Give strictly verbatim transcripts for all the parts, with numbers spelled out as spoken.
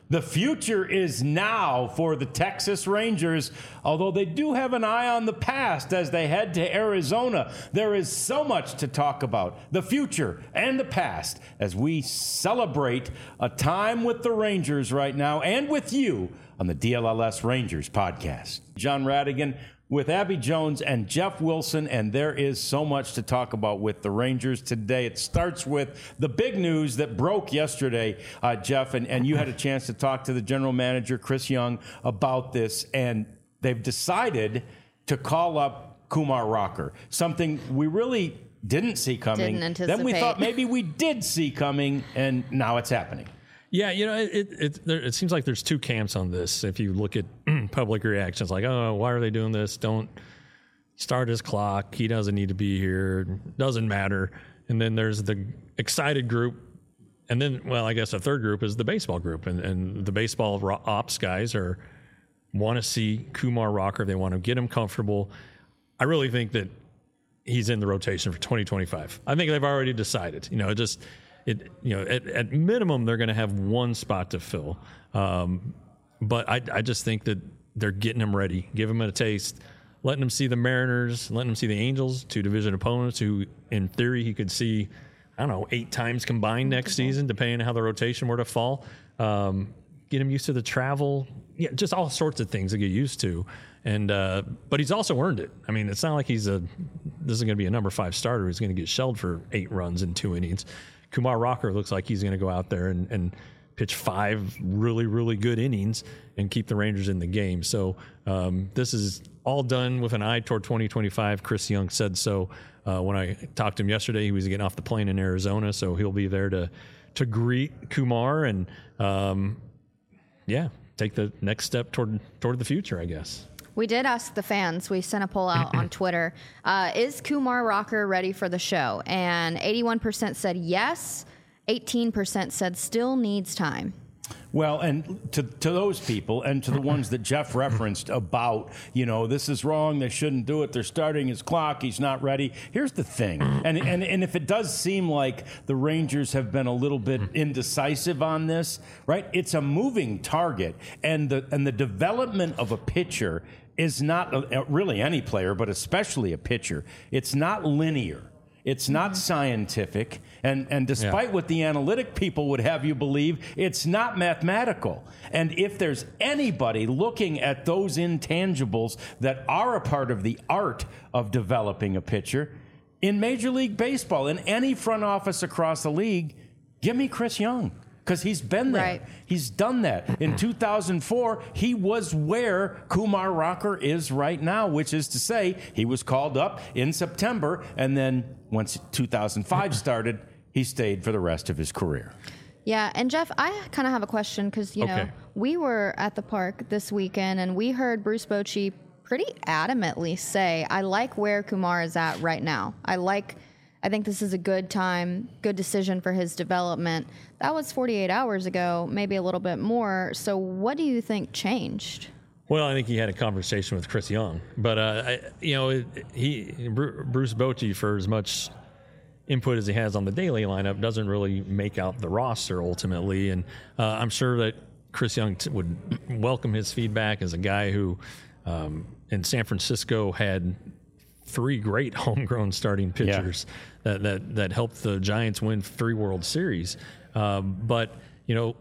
The future is now for the Texas Rangers, although they do have an eye on the past as they head to Arizona. There is so much to talk about, the future and the past, as we celebrate a time with the Rangers right now and with you on the D L L S Rangers podcast. John Radigan with Abby Jones and Jeff Wilson, and there is so much to talk about with the Rangers today. It starts with the big news that broke yesterday, uh, Jeff, and, and you had a chance to talk to the general manager, Chris Young, about this, and they've decided to call up Kumar Rocker, something we really didn't see coming. Didn't anticipate. Then we thought maybe we did see coming, and now it's happening. Yeah, you know, it it, it, there, it seems like there's two camps on this. If you look at public reactions, like, oh, why are they doing this? Don't start his clock. He doesn't need to be here. Doesn't matter. And then there's the excited group. And then, well, I guess a third group is the baseball group. And, and the baseball ops guys are want to see Kumar Rocker. They want to get him comfortable. I really think that he's in the rotation for twenty twenty-five. I think they've already decided. You know, just... It, you know, at, at minimum, they're going to have one spot to fill. Um, but I, I just think that they're getting him ready, giving him a taste, letting him see the Mariners, letting him see the Angels, two division opponents who, in theory, he could see, I don't know, eight times combined next season, depending on how the rotation were to fall. Um, get him used to the travel, yeah, just all sorts of things to get used to. And uh, but he's also earned it. I mean, it's not like he's a this is going to be a number five starter who's going to get shelled for eight runs in two innings. Kumar Rocker looks like he's going to go out there and, and pitch five really, really good innings and keep the Rangers in the game. So um, this is all done with an eye toward twenty twenty-five. Chris Young said so. Uh, when I talked to him yesterday, he was getting off the plane in Arizona, so he'll be there to to greet Kumar and, um, yeah, take the next step toward toward the future, I guess. We did ask the fans. We sent a poll out on Twitter. Uh, is Kumar Rocker ready for the show? And eighty-one percent said yes. eighteen percent said still needs time. Well, and to to those people and to the ones that Jeff referenced about, you know, this is wrong, they shouldn't do it, they're starting his clock, he's not ready. Here's the thing, and and, and if it does seem like the Rangers have been a little bit indecisive on this, right, it's a moving target, and the and the development of a pitcher is not a, really any player, but especially a pitcher. It's not linear. It's not scientific, and, and despite yeah. what the analytic people would have you believe, it's not mathematical. And if there's anybody looking at those intangibles that are a part of the art of developing a pitcher, in Major League Baseball, in any front office across the league, give me Chris Young. Because he's been there. Right. He's done that. In two thousand four, he was where Kumar Rocker is right now, which is to say he was called up in September, and then once two thousand five started, he stayed for the rest of his career. Yeah, and Jeff, I kind of have a question because, you okay. know, we were at the park this weekend, and we heard Bruce Bochy pretty adamantly say, I like where Kumar is at right now. I like... I think this is a good time, good decision for his development. That was forty-eight hours ago, maybe a little bit more. So what do you think changed? Well, I think he had a conversation with Chris Young. But, uh, I, you know, he Bruce Bochy, for as much input as he has on the daily lineup, doesn't really make out the roster ultimately. And uh, I'm sure that Chris Young t- would welcome his feedback as a guy who um, in San Francisco had three great homegrown starting pitchers yeah. that, that that helped the Giants win three World Series. Um, but you know,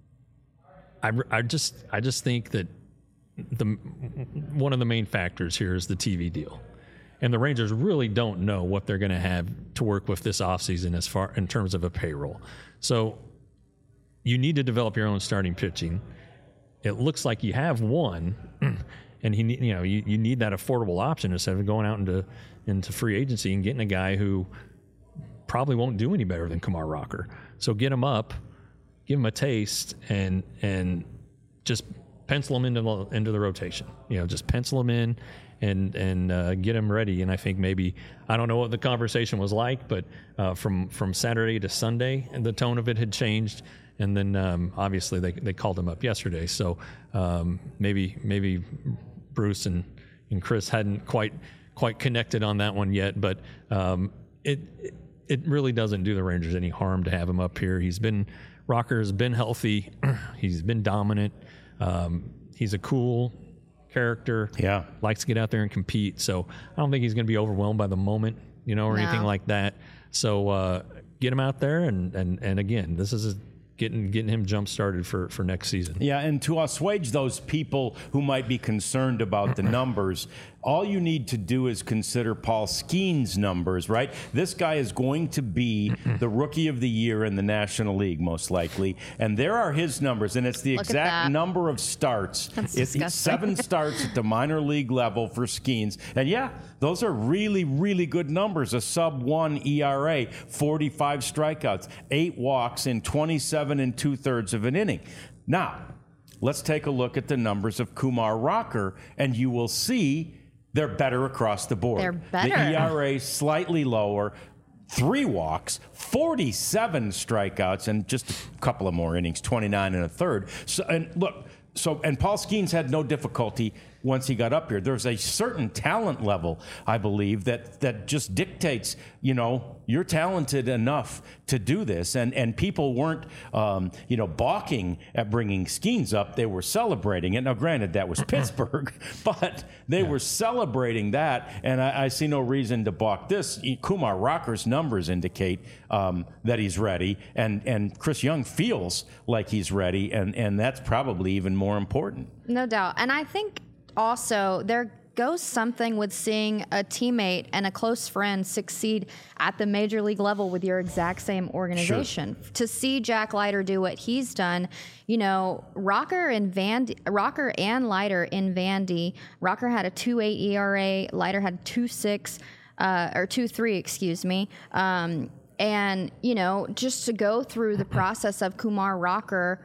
I, I just I just think that the one of the main factors here is the T V deal, and the Rangers really don't know what they're going to have to work with this offseason as far in terms of a payroll. So you need to develop your own starting pitching. It looks like you have one. And he, you know, you, you need that affordable option instead of going out into into free agency and getting a guy who probably won't do any better than Kumar Rocker. So get him up, give him a taste, and and just pencil him into the, into the rotation. You know, just pencil him in and and uh, get him ready. And I think maybe I don't know what the conversation was like, but uh, from from Saturday to Sunday, the tone of it had changed. And then um, obviously they they called him up yesterday. So um, maybe maybe Bruce and, and Chris hadn't quite quite connected on that one yet. But um, it it really doesn't do the Rangers any harm to have him up here. He's been Rocker has been healthy. He's been dominant. Um, he's a cool character. Yeah. Likes to get out there and compete. So I don't think he's going to be overwhelmed by the moment, you know, or No. anything like that. So uh, get him out there. And, and, and again, this is a, getting getting him jump started for, for next season. Yeah, and to assuage those people who might be concerned about the numbers, all you need to do is consider Paul Skeen's numbers, right? This guy is going to be the Rookie of the Year in the National League, most likely. And there are his numbers, and it's the Look at exact that. number of starts. That's it's disgusting. seven starts at the minor league level for Skeens. And yeah, those are really, really good numbers. A sub one E R A, forty-five strikeouts, eight walks in twenty-seven and two-thirds of an inning. Now, let's take a look at the numbers of Kumar Rocker, and you will see they're better across the board. They're better. The E R A slightly lower, three walks, forty-seven strikeouts, and just a couple of more innings, twenty-nine and a third. So, and look, so and Paul Skeens had no difficulty once he got up here. There's a certain talent level, I believe, that that just dictates, you know, you're talented enough to do this. And and people weren't, um, you know, balking at bringing Skeens up. They were celebrating it. Now, granted, that was Pittsburgh, but they yeah. were celebrating that. And I, I see no reason to balk this. Kumar Rocker's numbers indicate um, that he's ready. And, and Chris Young feels like he's ready. And, and that's probably even more important. No doubt. And I think also there goes something with seeing a teammate and a close friend succeed at the major league level with your exact same organization. Sure. To see Jack Leiter do what he's done, you know, Rocker and Van Rocker and Leiter in Vandy. Rocker had a two point eight E R A, Leiter had two point six uh, or two point three, excuse me. Um, and you know, just to go through the process of Kumar Rocker,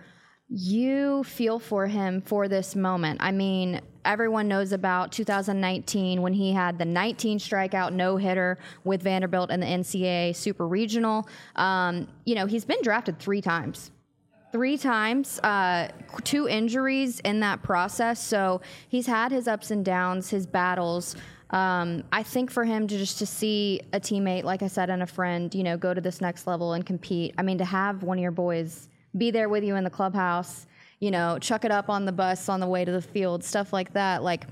you feel for him for this moment. I mean, everyone knows about two thousand nineteen when he had the nineteen strikeout no-hitter with Vanderbilt in the N C double A Super Regional. Um, you know, he's been drafted three times. Three times, uh, two injuries in that process. So he's had his ups and downs, his battles. Um, I think for him to just to see a teammate, like I said, and a friend, you know, go to this next level and compete. I mean, to have one of your boys be there with you in the clubhouse, you know, chuck it up on the bus on the way to the field, stuff like that. Like,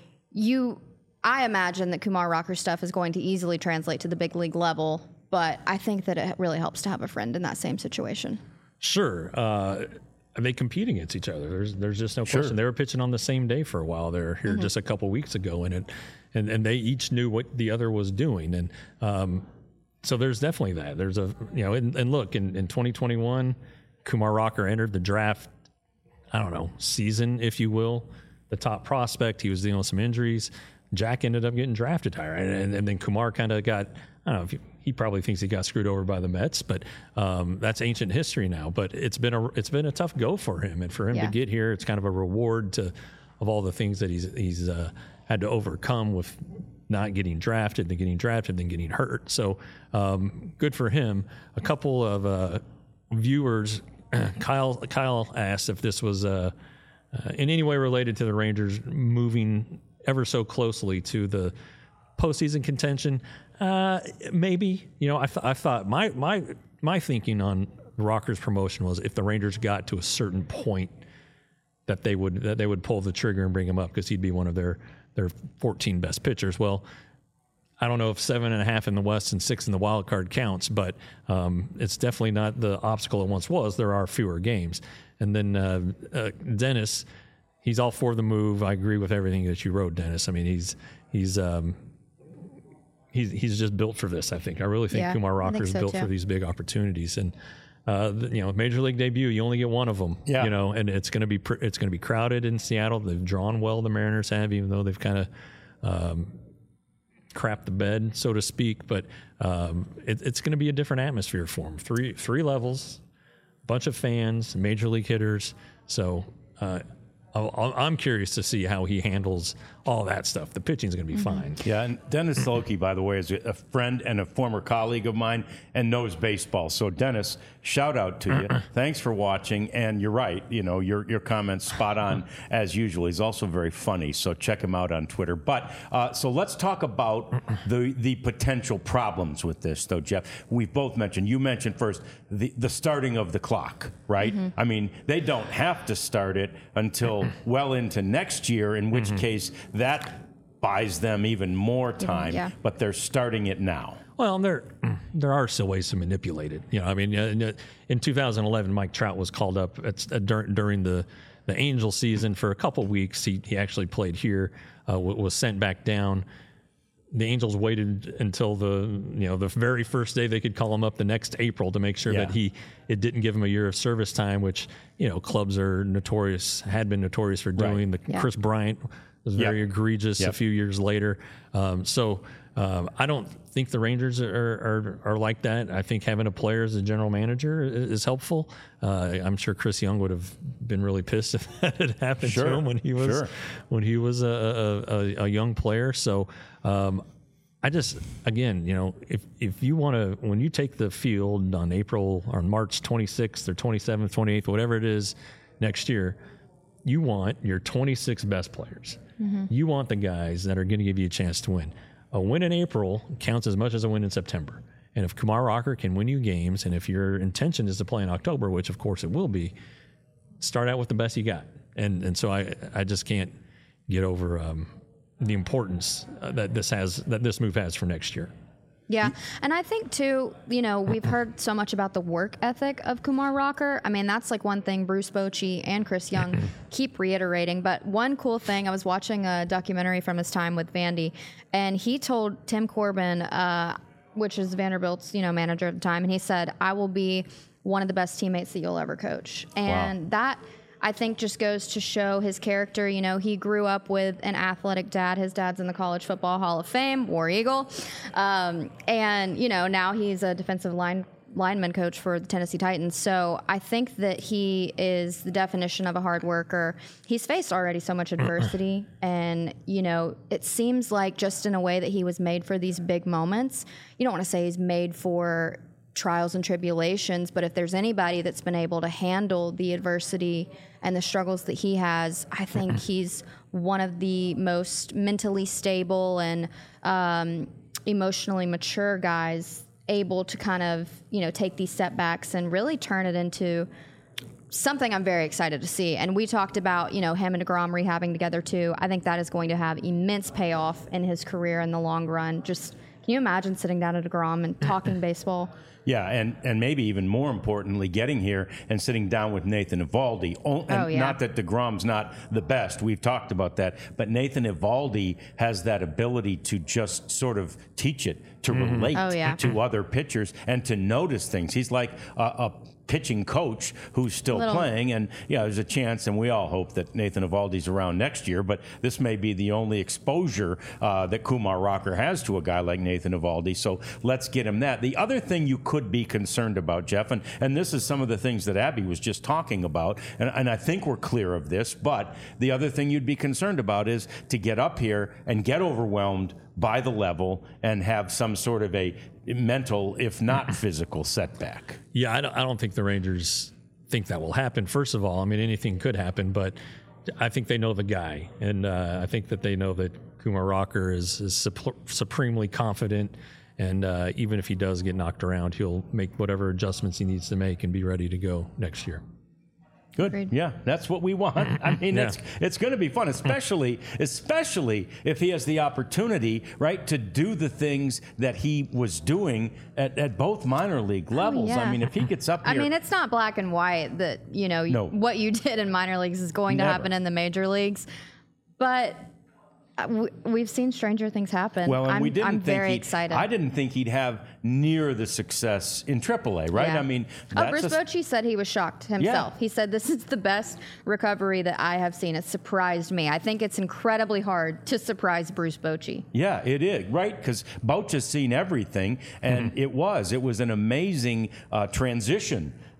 you, I imagine that Kumar Rocker's stuff is going to easily translate to the big league level, but I think that it really helps to have a friend in that same situation. Sure. Uh, they compete against each other. There's there's just no Sure. question. They were pitching on the same day for a while there here mm-hmm. just a couple weeks ago, and it, and and they each knew what the other was doing, and um, so there's definitely that. There's a you know, and, and look in, in twenty twenty-one. Kumar Rocker entered the draft, I don't know, season, if you will, the top prospect. He was dealing with some injuries. Jack ended up getting drafted higher. And, and then Kumar kind of got, I don't know, if he, he probably thinks he got screwed over by the Mets, but um, that's ancient history now. But it's been a it's been a tough go for him. And for him yeah. to get here, it's kind of a reward to of all the things that he's, he's uh, had to overcome with not getting drafted, then getting drafted, then getting hurt. So um, good for him. A couple of uh, viewers... Kyle Kyle asked if this was uh, uh, in any way related to the Rangers moving ever so closely to the postseason contention. Uh, maybe, you know, I, th- I thought my my my thinking on Rocker's promotion was if the Rangers got to a certain point that they would that they would pull the trigger and bring him up because he'd be one of their their fourteen best pitchers. Well, I don't know if seven and a half in the West and six in the wild card counts, but um, it's definitely not the obstacle it once was. There are fewer games. And then uh, uh, Dennis, he's all for the move. I agree with everything that you wrote, Dennis. I mean, he's he's um, he's he's just built for this. I think. I really think yeah, Kumar Rocker is so built too. for these big opportunities. And uh, the, you know, major league debut, you only get one of them. Yeah. You know, and it's going to be pr- it's going to be crowded in Seattle. They've drawn well. The Mariners have, even though they've kind of. Um, crap the bed, so to speak, but um, it, it's going to be a different atmosphere for him. Three three levels, bunch of fans, major league hitters. So uh, I'll, I'm curious to see how he handles all that stuff. The pitching's going to be Mm-hmm. fine. Yeah, and Dennis Loki, by the way, is a friend and a former colleague of mine and knows baseball. So, Dennis, shout out to you. Thanks for watching. And you're right. You know, your your comments spot on as usual. He's also very funny. So check him out on Twitter. But uh, so let's talk about the the potential problems with this, though, Jeff. We've both mentioned. You mentioned first the the starting of the clock, right? Mm-hmm. I mean, they don't have to start it until well into next year. In which case, that buys them even more time, yeah. but they're starting it now. Well, there there are still ways to manipulate it. You know, I mean, uh, in two thousand eleven, Mike Trout was called up at, uh, dur- during the the Angel season for a couple weeks. He he actually played here, uh, w- was sent back down. The Angels waited until the you know the very first day they could call him up the next April to make sure Yeah. that he it didn't give him a year of service time, which you know clubs are notorious had been notorious for doing. Right. The Yeah. Chris Bryant was very Yep. egregious Yep. a few years later. Um, so um, I don't think the Rangers are, are are like that. I think having a player as a general manager is, is helpful. Uh, I'm sure Chris Young would have been really pissed if that had happened Sure. to him when he was Sure. when he was a, a, a, a young player. So um, I just again, you know, if if you want to, when you take the field on April or March twenty-sixth or twenty-seventh, twenty-eighth, whatever it is next year, you want your twenty-six best players. Mm-hmm. You want the guys that are going to give you a chance to win. A win in April counts as much as a win in September. And if Kumar Rocker can win you games, and if your intention is to play in October, which of course it will be, start out with the best you got. And and so I I just can't get over um, the importance uh, that this has that this move has for next year. Yeah. And I think, too, you know, we've heard so much about the work ethic of Kumar Rocker. I mean, that's like one thing Bruce Bochy and Chris Young keep reiterating. But one cool thing, I was watching a documentary from his time with Vandy, and he told Tim Corbin, uh, which is Vanderbilt's, you know, manager at the time, and he said, I will be one of the best teammates that you'll ever coach. And Wow. that, I think, just goes to show his character. You know, he grew up with an athletic dad. His dad's in the College Football Hall of Fame, War Eagle. Um, and, you know, now he's a defensive line lineman coach for the Tennessee Titans. So I think that he is the definition of a hard worker. He's faced already so much adversity. And, you know, it seems like just in a way that he was made for these big moments. You don't want to say he's made for trials and tribulations, but if there's anybody that's been able to handle the adversity and the struggles that he has, I think he's one of the most mentally stable and um, emotionally mature guys able to kind of, you know, take these setbacks and really turn it into something I'm very excited to see. And we talked about, you know, him and DeGrom rehabbing together too. I think that is going to have immense payoff in his career in the long run. Just, can you imagine sitting down at DeGrom and talking baseball? Yeah, and, and maybe even more importantly, getting here and sitting down with Nathan Eovaldi. Oh, and Oh, yeah. Not that DeGrom's not the best. We've talked about that. But Nathan Eovaldi has that ability to just sort of teach it, to relate Oh, yeah. to other pitchers, and to notice things. He's like a, a pitching coach who's still Little- playing. And, yeah, there's a chance, and we all hope that Nathan Eovaldi's around next year. But this may be the only exposure uh, that Kumar Rocker has to a guy like Nathan Eovaldi. So let's get him that. The other thing you could be concerned about, Jeff, and, and this is some of the things that Abby was just talking about, and, and I think we're clear of this, but the other thing you'd be concerned about is to get up here and get overwhelmed by the level and have some sort of a mental, if not physical, setback. Yeah, I don't, I don't think the Rangers think that will happen. First of all, I mean, anything could happen, but I think they know the guy. And uh, I think that they know that Kumar Rocker is, is sup- supremely confident. And uh, even if he does get knocked around, he'll make whatever adjustments he needs to make and be ready to go next year. Good. Agreed. Yeah, that's what we want. I mean, Yeah. it's it's going to be fun, especially especially if he has the opportunity, right, to do the things that he was doing at, at both minor league levels. I yeah. mean, if he gets up I here, mean, it's not black and white that, you know, No. what you did in minor leagues is going to Never. happen in the major leagues. But uh, we, we've seen stranger things happen. well, and I'm, we didn't I'm think very he'd- excited. I didn't think he'd have near the success in triple A, right? Yeah. I mean, Oh, that's Bruce a- Bochy said he was shocked himself. Yeah. He said, this is the best recovery that I have seen. It surprised me. I think it's incredibly hard to surprise Bruce Bochy. Yeah, it is, right? Because Bouch has seen everything, and it was. It was an amazing uh, transition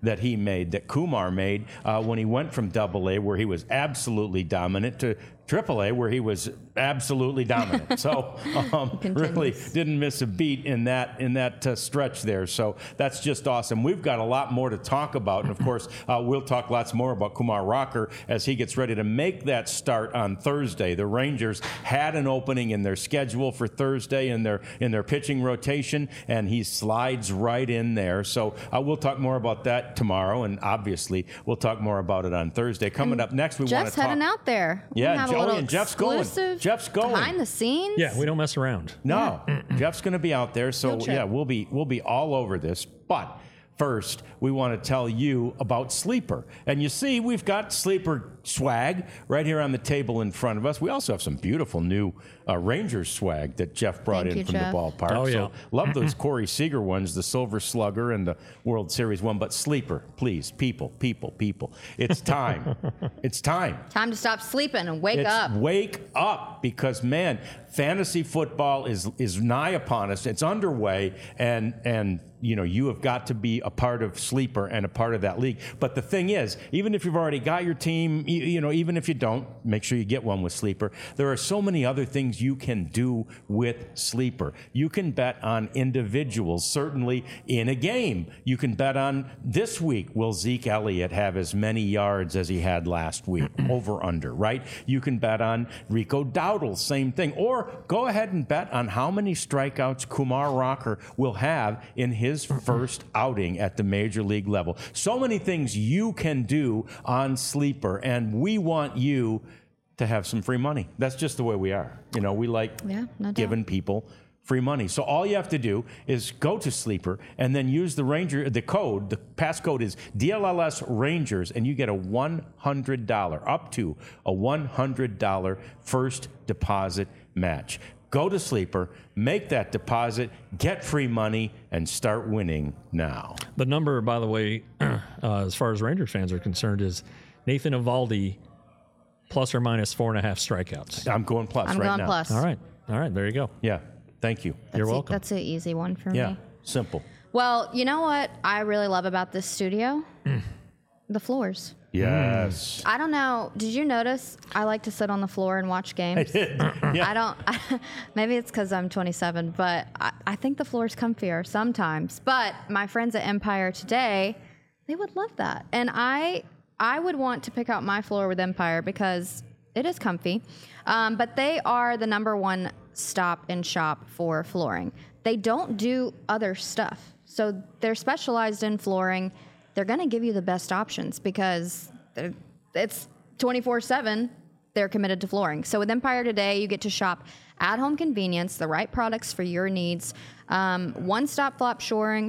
that he made, that Kumar made uh, when he went from Double A, where he was absolutely dominant, to Triple A, where he was absolutely dominant. So um, really didn't miss a beat in that in that uh, stretch there. So that's just awesome. We've got a lot more to talk about, and of course uh, we'll talk lots more about Kumar Rocker as he gets ready to make that start on Thursday. The Rangers had an opening in their schedule for Thursday in their in their pitching rotation, and he slides right in there. So uh, we'll talk more about that tomorrow, and obviously we'll talk more about it on Thursday. Coming and up next, we want Jeff's to talk. heading out there. We Yeah, have a oh, little and Jeff's going. exclusive Jeff's going. behind the scenes. Yeah, we don't mess around. No, Jeff's going to be out there, so Field trip. yeah, we'll be we'll be all over this. But first, we want to tell you about Sleeper. And you see, we've got Sleeper swag right here on the table in front of us. We also have some beautiful new uh, Rangers swag that Jeff brought Thank in you, from Jeff. the ballpark. Oh, yeah. So love those Corey Seager ones, the Silver Slugger and the World Series one. But Sleeper, please, people, people, people, it's time. It's time. Time to stop sleeping and wake It's up. wake up, because man, fantasy football is is nigh upon us. It's underway, and and you know you have got to be a part of Sleeper and a part of that league. But the thing is, even if you've already got your team, you, you know, even if you don't, make sure you get one with Sleeper. There are so many other things you can do with Sleeper. You can bet on individuals, certainly in a game. You can bet on this week, will Zeke Elliott have as many yards as he had last week, over under, right? You can bet on Rico Dowdle, same thing. Or go ahead and bet on how many strikeouts Kumar Rocker will have in his first outing at the major league level. So many things you can do on Sleeper, and we want you to have some free money. That's just the way we are. You know, we like Yeah, no doubt. giving people free money. So all you have to do is go to Sleeper and then use the Ranger, the code, the passcode is D L L S Rangers, and you get a one hundred dollars, up to a one hundred dollars first deposit match. Go to Sleeper, make that deposit, get free money, and start winning now. The number, by the way, uh, as far as Rangers fans are concerned, is Nathan Eovaldi plus or minus four and a half strikeouts. I'm going plus I'm right going now. plus. All right. All right. There you go. Yeah. Thank you. That's You're a- welcome. That's an easy one for Yeah. me. Simple. Well, you know what I really love about this studio? Mm. The floors. Yes. I don't know. Did you notice I like to sit on the floor and watch games? Yeah. I don't. Maybe it's because I'm twenty-seven, but I, I think the floor's comfier sometimes. But my friends at Empire today, they would love that, and I I would want to pick out my floor with Empire because it is comfy. Um, but they are the number one stop and shop for flooring. They don't do other stuff, so they're specialized in flooring. They're going to give you the best options because they're- it's twenty-four seven. They're committed to flooring. So with Empire today, you get to shop at home convenience, the right products for your needs. Um, one-stop flop shoring,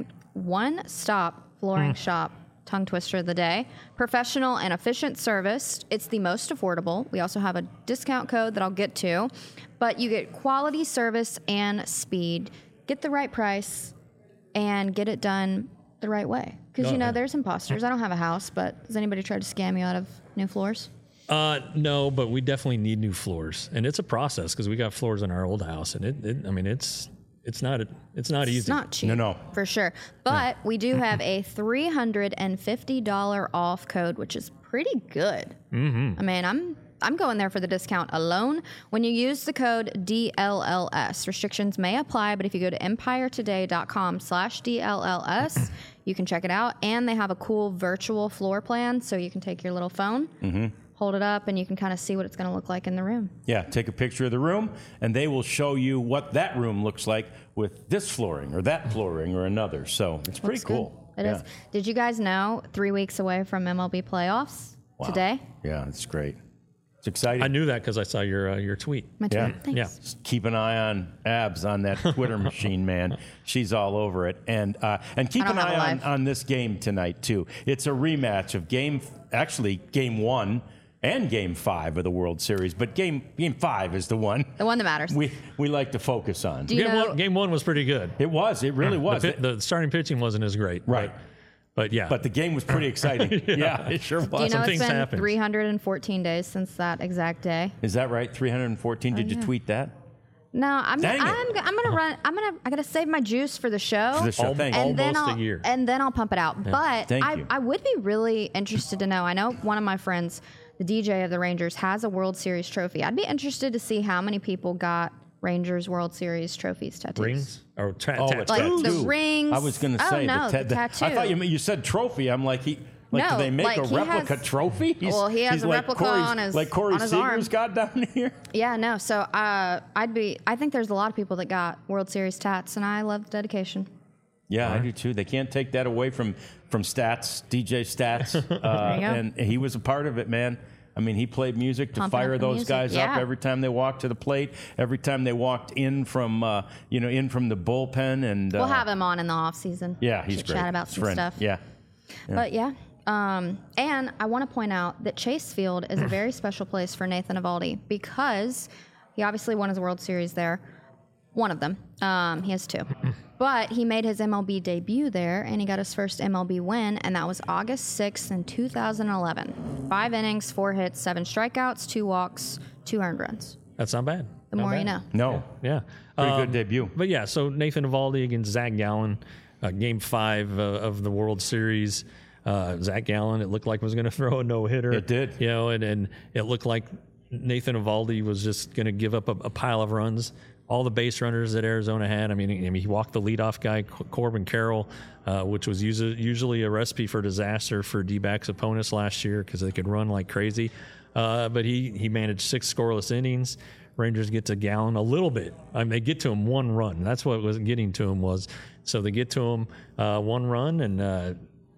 one-stop flooring shop. Tongue twister of the day. Professional and efficient service. It's the most affordable. We also have a discount code that I'll get to. But you get quality service and speed. Get the right price and get it done the right way. Because, Oh, you know, yeah. there's imposters. I don't have a house, but has anybody tried to scam you out of new floors? Uh, no, but we definitely need new floors, and it's a process because we got floors in our old house, and it, it I mean, it's it's not it's not easy. It's not cheap. No, no. For sure. But we do have a three hundred fifty dollars off code, which is pretty good. Mm-hmm. I mean, I'm I'm going there for the discount alone. When you use the code D L L S, restrictions may apply, but if you go to empiretoday.com slash DLLS, you can check it out. And they have a cool virtual floor plan, so you can take your little phone, hold it up, and you can kind of see what it's going to look like in the room. Yeah, take a picture of the room, and they will show you what that room looks like with this flooring or that flooring or another. So it's pretty Looks good. cool. It yeah. is. Did you guys know three weeks away from M L B playoffs Wow. today? Yeah, it's great. It's exciting. I knew that because I saw your uh, your tweet. My Yeah. tweet. Thanks. Yeah. Just keep an eye on Abs on that Twitter machine, man. She's all over it. And uh, and keep I don't an have a eye on, life. on this game tonight, too. It's a rematch of game, actually, game one and game five of the World Series. But game game five is the one The one that matters. we, we like to focus on. Do you Game know? one, game one was pretty good. It was. It really was. The, pi- the starting pitching wasn't as great. Right. But, but yeah. But the game was pretty exciting. yeah. it sure was. Do you know Some it's things been happened. three hundred fourteen days since that exact day? Is that right? three hundred fourteen? Did you yeah. tweet that? No, I'm Dang it. I'm I'm gonna run. I'm gonna I gotta save my juice for the show. For the show, Al- thank you. and then Almost I'll a year. and then I'll pump it out. But Thank I, you. I would be really interested to know. I know one of my friends, the D J of the Rangers, has a World Series trophy. I'd be interested to see how many people got Rangers World Series trophies tattoos. Rings or tra- Oh, tattoos? it's Like tattoo. the rings. I was going to Oh, say no, the, the ta- tattoo. I thought you you said trophy. I'm like he. Like, No, do they make like, a he replica has- trophy? He's, Well, he has he's a like replica Corey's- on his- like Corey on his Seager's arm. got down here. Yeah, no. So uh, I'd be. I think there's a lot of people that got World Series tats, and I love the dedication. Yeah, I do too. They can't take that away from from Stats, D J Stats, uh, you go. and he was a part of it, man. I mean, he played music to Pumping up fire the those music, guys up yeah. every time they walked to the plate, every time they walked in from uh, you know in from the bullpen, and uh, We'll have him on in the off season. yeah, he's to great. Chat about His some friend. stuff. Yeah, But yeah. Um, and I want to point out that Chase Field is a very special place for Nathan Eovaldi because he obviously won his World Series there. One of them. Um, he has two. But he made his M L B debut there, and he got his first M L B win, and that was August sixth in two thousand eleven. Five innings, four hits, seven strikeouts, two walks, two earned runs. That's not bad. The Not more bad. you know. no, Yeah. pretty Um, good debut. But yeah, so Nathan Eovaldi against Zach Gallen, uh, game five uh, of the World Series. Uh, Zach Gallen, it looked like was going to throw a no hitter. It did. You know, and, and it looked like Nathan Eovaldi was just going to give up a, a pile of runs. All the base runners that Arizona had. I mean, I mean he walked the leadoff guy, Corbin Carroll, uh, which was usually, usually a recipe for disaster for D-backs opponents last year because they could run like crazy. Uh, but he he managed six scoreless innings. Rangers get to Gallen a little bit. I mean, they get to him one run. That's what was getting to him was. So they get to him uh, one run, and uh,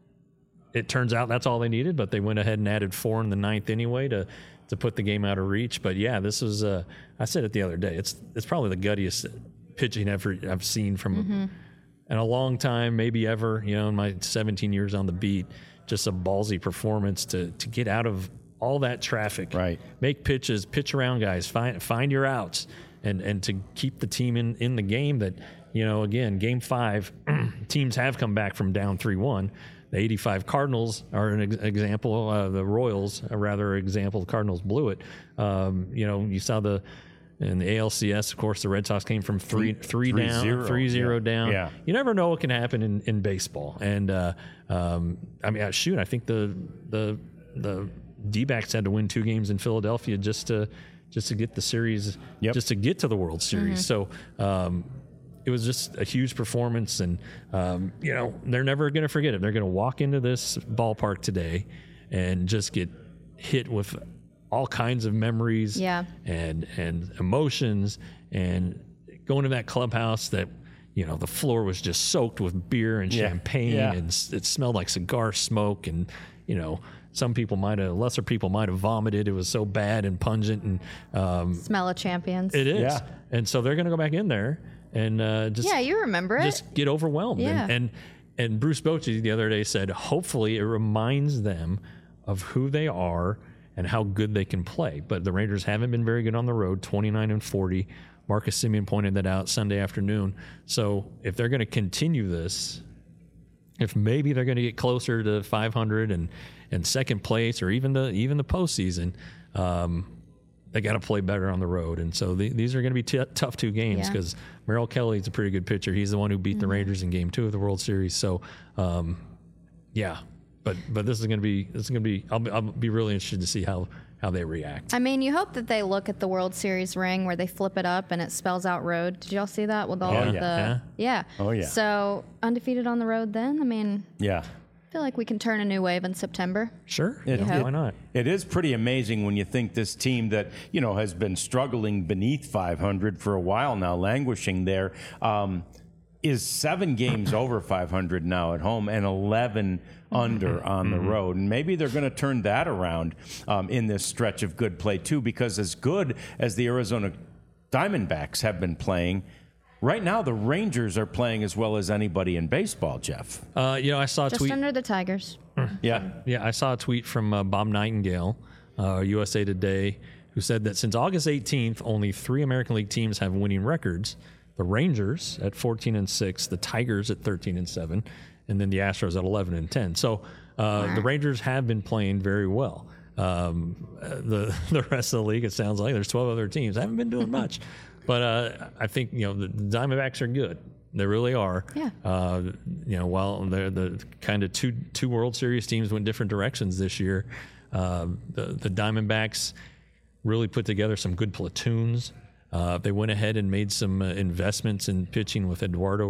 it turns out that's all they needed. But they went ahead and added four in the ninth anyway to to put the game out of reach. But yeah, this was. Uh, I said it the other day. It's it's probably the guttiest pitching ever I've seen from Mm-hmm. in a long time, maybe ever. You know, in my seventeen years on the beat, just a ballsy performance to to get out of all that traffic, Right. Make pitches, pitch around guys, find find your outs, and and to keep the team in in the game. That you know, again, game five, teams have come back from down three one. The eighty-five Cardinals are an ex- example. Uh, the Royals, a rather example. The Cardinals blew it. Um, you know, you saw the in the A L C S. Of course, the Red Sox came from three three, Three down, zero. three zero Yeah. down. Yeah. You never know what can happen in, in baseball. And uh, um, I mean, uh, shoot, I think the the the D-backs had to win two games in Philadelphia just to just to get the series, Yep. just to get to the World Series. So. Um, It was just a huge performance, and um, you know they're never going to forget it. They're going to walk into this ballpark today and just get hit with all kinds of memories, Yeah. and and emotions, and going to that clubhouse that you know the floor was just soaked with beer and Yeah. champagne, Yeah. and s- it smelled like cigar smoke, and you know. Some people might have, lesser people might have vomited. It was so bad and pungent, and um, Smell of champions. it is. Yeah. And so they're going to go back in there and uh, just Yeah, you remember it. just get overwhelmed. Yeah. And, and and Bruce Bochy the other day said, hopefully it reminds them of who they are and how good they can play. But the Rangers haven't been very good on the road, twenty-nine and forty. Marcus Semien pointed that out Sunday afternoon. So if they're going to continue this, if maybe they're going to get closer to five hundred and, and second place or even the even the postseason, um, they got to play better on the road. And so the, these are going to be t- tough two games Yeah. because Merrill Kelly's a pretty good pitcher. He's the one who beat Mm-hmm. the Rangers in Game Two of the World Series. So, um, yeah, but but this is going to be this is going to be. I'll, be- I'll be really interested to see how how they react. I mean, you hope that they look at the World Series ring where they flip it up and it spells out road. Did y'all see that with all Yeah. of the Yeah. yeah. Oh, yeah. So undefeated on the road then? I mean, Yeah. I feel like we can turn a new wave in September. Sure, It- yeah, it- why not? It is pretty amazing when you think this team that, you know, has been struggling beneath five hundred for a while now, languishing there, um, is seven games over five hundred now at home and eleven under on the road. And maybe they're going to turn that around um, in this stretch of good play, too, because as good as the Arizona Diamondbacks have been playing, right now the Rangers are playing as well as anybody in baseball, Jeff. Uh, you know, I saw a Just tweet. under the Tigers. Yeah. Yeah, I saw a tweet from uh, Bob Nightingale, uh, U S A Today, who said that since August eighteenth, only three American League teams have winning records: the Rangers at fourteen and six, the Tigers at thirteen and seven, and then the Astros at eleven and ten. So uh, the Rangers have been playing very well. Um, uh, the the rest of the league, it sounds like there's twelve other teams, haven't been doing much. But uh, I think, you know, the Diamondbacks are good. They really are. Yeah. Uh, you know, while they're the kind of two two World Series teams went different directions this year, uh, the the Diamondbacks really put together some good platoons. Uh, they went ahead and made some uh, investments in pitching with Eduardo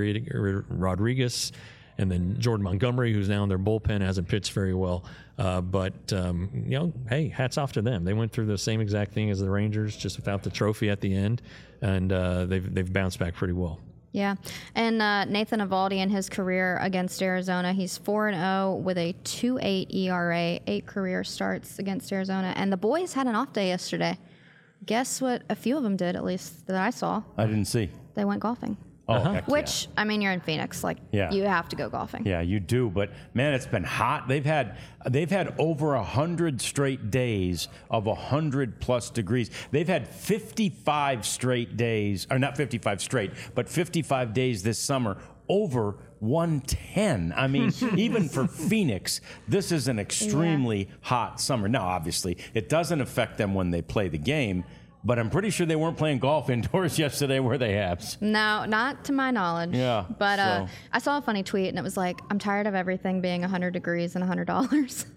Rodriguez, and then Jordan Montgomery, who's now in their bullpen, hasn't pitched very well. Uh, but, um, you know, hey, hats off to them. They went through the same exact thing as the Rangers, just without the trophy at the end, and uh, they've they've bounced back pretty well. Yeah, and uh, Nathan Eovaldi in his career against Arizona, he's four and oh with a two point eight E R A, eight career starts against Arizona. And the boys had an off day yesterday. Guess what a few of them did, at least that I saw? I didn't see. They went golfing. Oh, Uh-huh. heck Which, yeah. I mean, you're in Phoenix. Like, Yeah. you have to go golfing. Yeah, you do. But man, it's been hot. They've had they've had over a hundred straight days of a hundred plus degrees. They've had fifty-five straight days, or not fifty-five straight, but fifty-five days this summer over one ten. I mean, even for Phoenix, this is an extremely hot summer. Now, obviously, it doesn't affect them when they play the game. But I'm pretty sure they weren't playing golf indoors yesterday, were they, Habs? No, not to my knowledge. Yeah, But uh, so- I saw a funny tweet, and it was like, I'm tired of everything being one hundred degrees and one hundred dollars.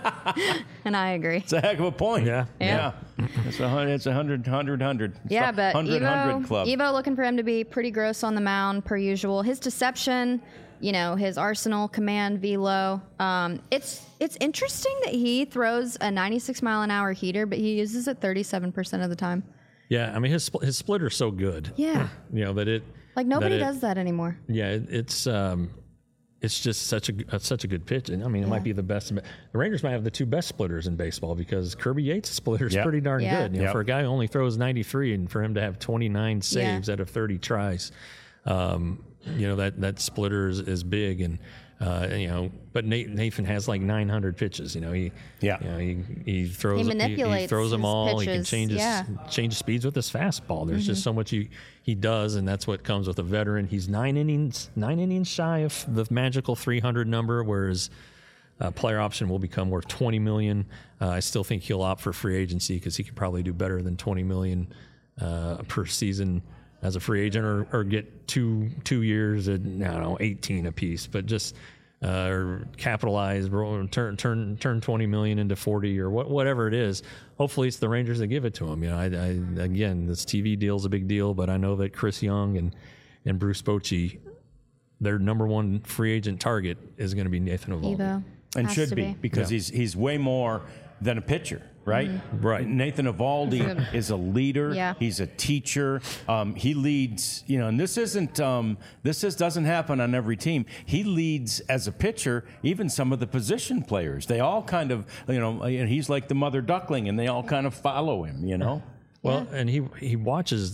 And I agree. It's a heck of a point. Yeah. Yeah. It's a hundred, it's a hundred, hundred, hundred. It's Yeah, the but hundred, hundred Evo, club. Evo looking for him to be pretty gross on the mound, per usual. His deception, you know, his arsenal, command, velo. Um, it's it's interesting that he throws a ninety-six mile an hour heater, but he uses it thirty-seven percent of the time. Yeah, I mean, his spl- his splitter's so good. Yeah. You know, that it... Like, nobody that it- does that anymore. Yeah, it, it's um, it's just such a uh, such a good pitch, and I mean, it might be the best. The Rangers might have the two best splitters in baseball because Kirby Yates' splitter is Yep. pretty darn Yeah. good. You know, Yep. for a guy who only throws ninety-three, and for him to have twenty-nine saves out of thirty tries, um, you know that that splitter is, is big, and uh, you know, but Nate, Nathan has like nine hundred pitches. You know, he Yeah. you know, he he throws He he, manipulates throws them his all. He can pitches, change his yeah. change speeds with his fastball. There's just so much he, he does, and that's what comes with a veteran. He's nine innings nine innings shy of the magical three hundred number, whereas uh, player option will become worth twenty million. Uh, I still think he'll opt for free agency because he could probably do better than twenty million uh, per season as a free agent, or, or get two two years at, I don't know, eighteen apiece, but just. Uh, or capitalize, roll- turn turn turn twenty million into forty, or what, whatever it is. Hopefully, it's the Rangers that give it to him. You know, I, I again, this T V deal is a big deal, but I know that Chris Young and and Bruce Bochy, their number one free agent target is going to be Nathan Eovaldi. Evo. and Has should to be, be. because Yeah. he's he's way more than a pitcher, right? Right. Nathan Eovaldi is a leader. Yeah. He's a teacher. Um, he leads, you know, and this isn't um, this is, doesn't happen on every team. He leads as a pitcher, even some of the position players. They all kind of, you know, he's like the mother duckling, and they all kind of follow him. You know. Well, and he he watches.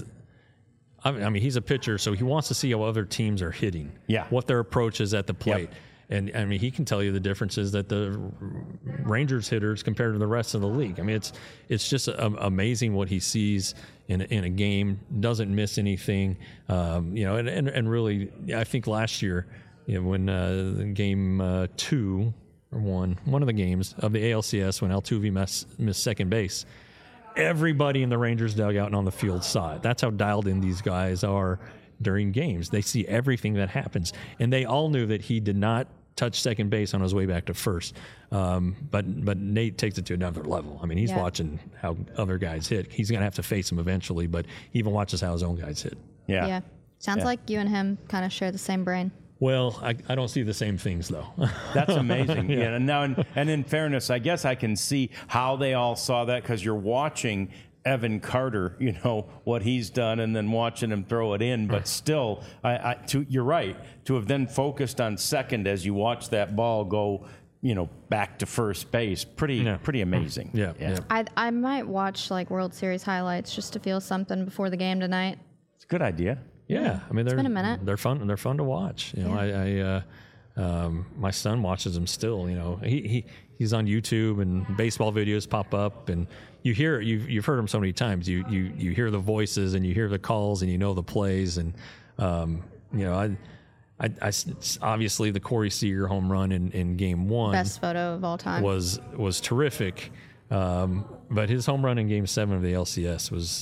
I mean, I mean, he's a pitcher, so he wants to see how other teams are hitting. Yeah. What their approach is at the plate. And I mean, he can tell you the differences that the Rangers hitters compared to the rest of the league. I mean, it's it's just a, amazing what he sees in a, in a game. Doesn't miss anything. Um, you know, and, and and really, I think last year, you know, when uh, game uh, two or one one of the games of the A L C S when Altuve missed, missed second base, everybody in the Rangers dugout and on the field saw it. That's how dialed in these guys are during games. They see everything that happens, and they all knew that he did not touch second base on his way back to first. Um, but but Nate takes it to another level. I mean, he's Yeah. watching how other guys hit. He's going to have to face him eventually, but he even watches how his own guys hit. Yeah. Yeah. Sounds Yeah. like you and him kind of share the same brain. Well, I, I don't see the same things, though. That's amazing. yeah. And now, and, and in fairness, I guess I can see how they all saw that, because you're watching Evan Carter, you know, what he's done, and then watching him throw it in. But still, I, I, to, you're right, to have then focused on second as you watch that ball go, you know, back to first base. Pretty, Yeah. pretty amazing. Yeah, yeah. I I might watch like World Series highlights just to feel something before the game tonight. It's a good idea. Yeah, I mean they're been a minute. they're fun. They're fun to watch. You know, Yeah. I, I uh, um, my son watches them still. You know, he, he he's on YouTube and baseball videos pop up, and you hear you've you've heard them so many times. You you you hear the voices and you hear the calls and you know the plays, and um, you know I. I, I s- obviously the Corey Seager home run in, in game one Best photo of all time. was was terrific, um, but his home run in game seven of the L C S was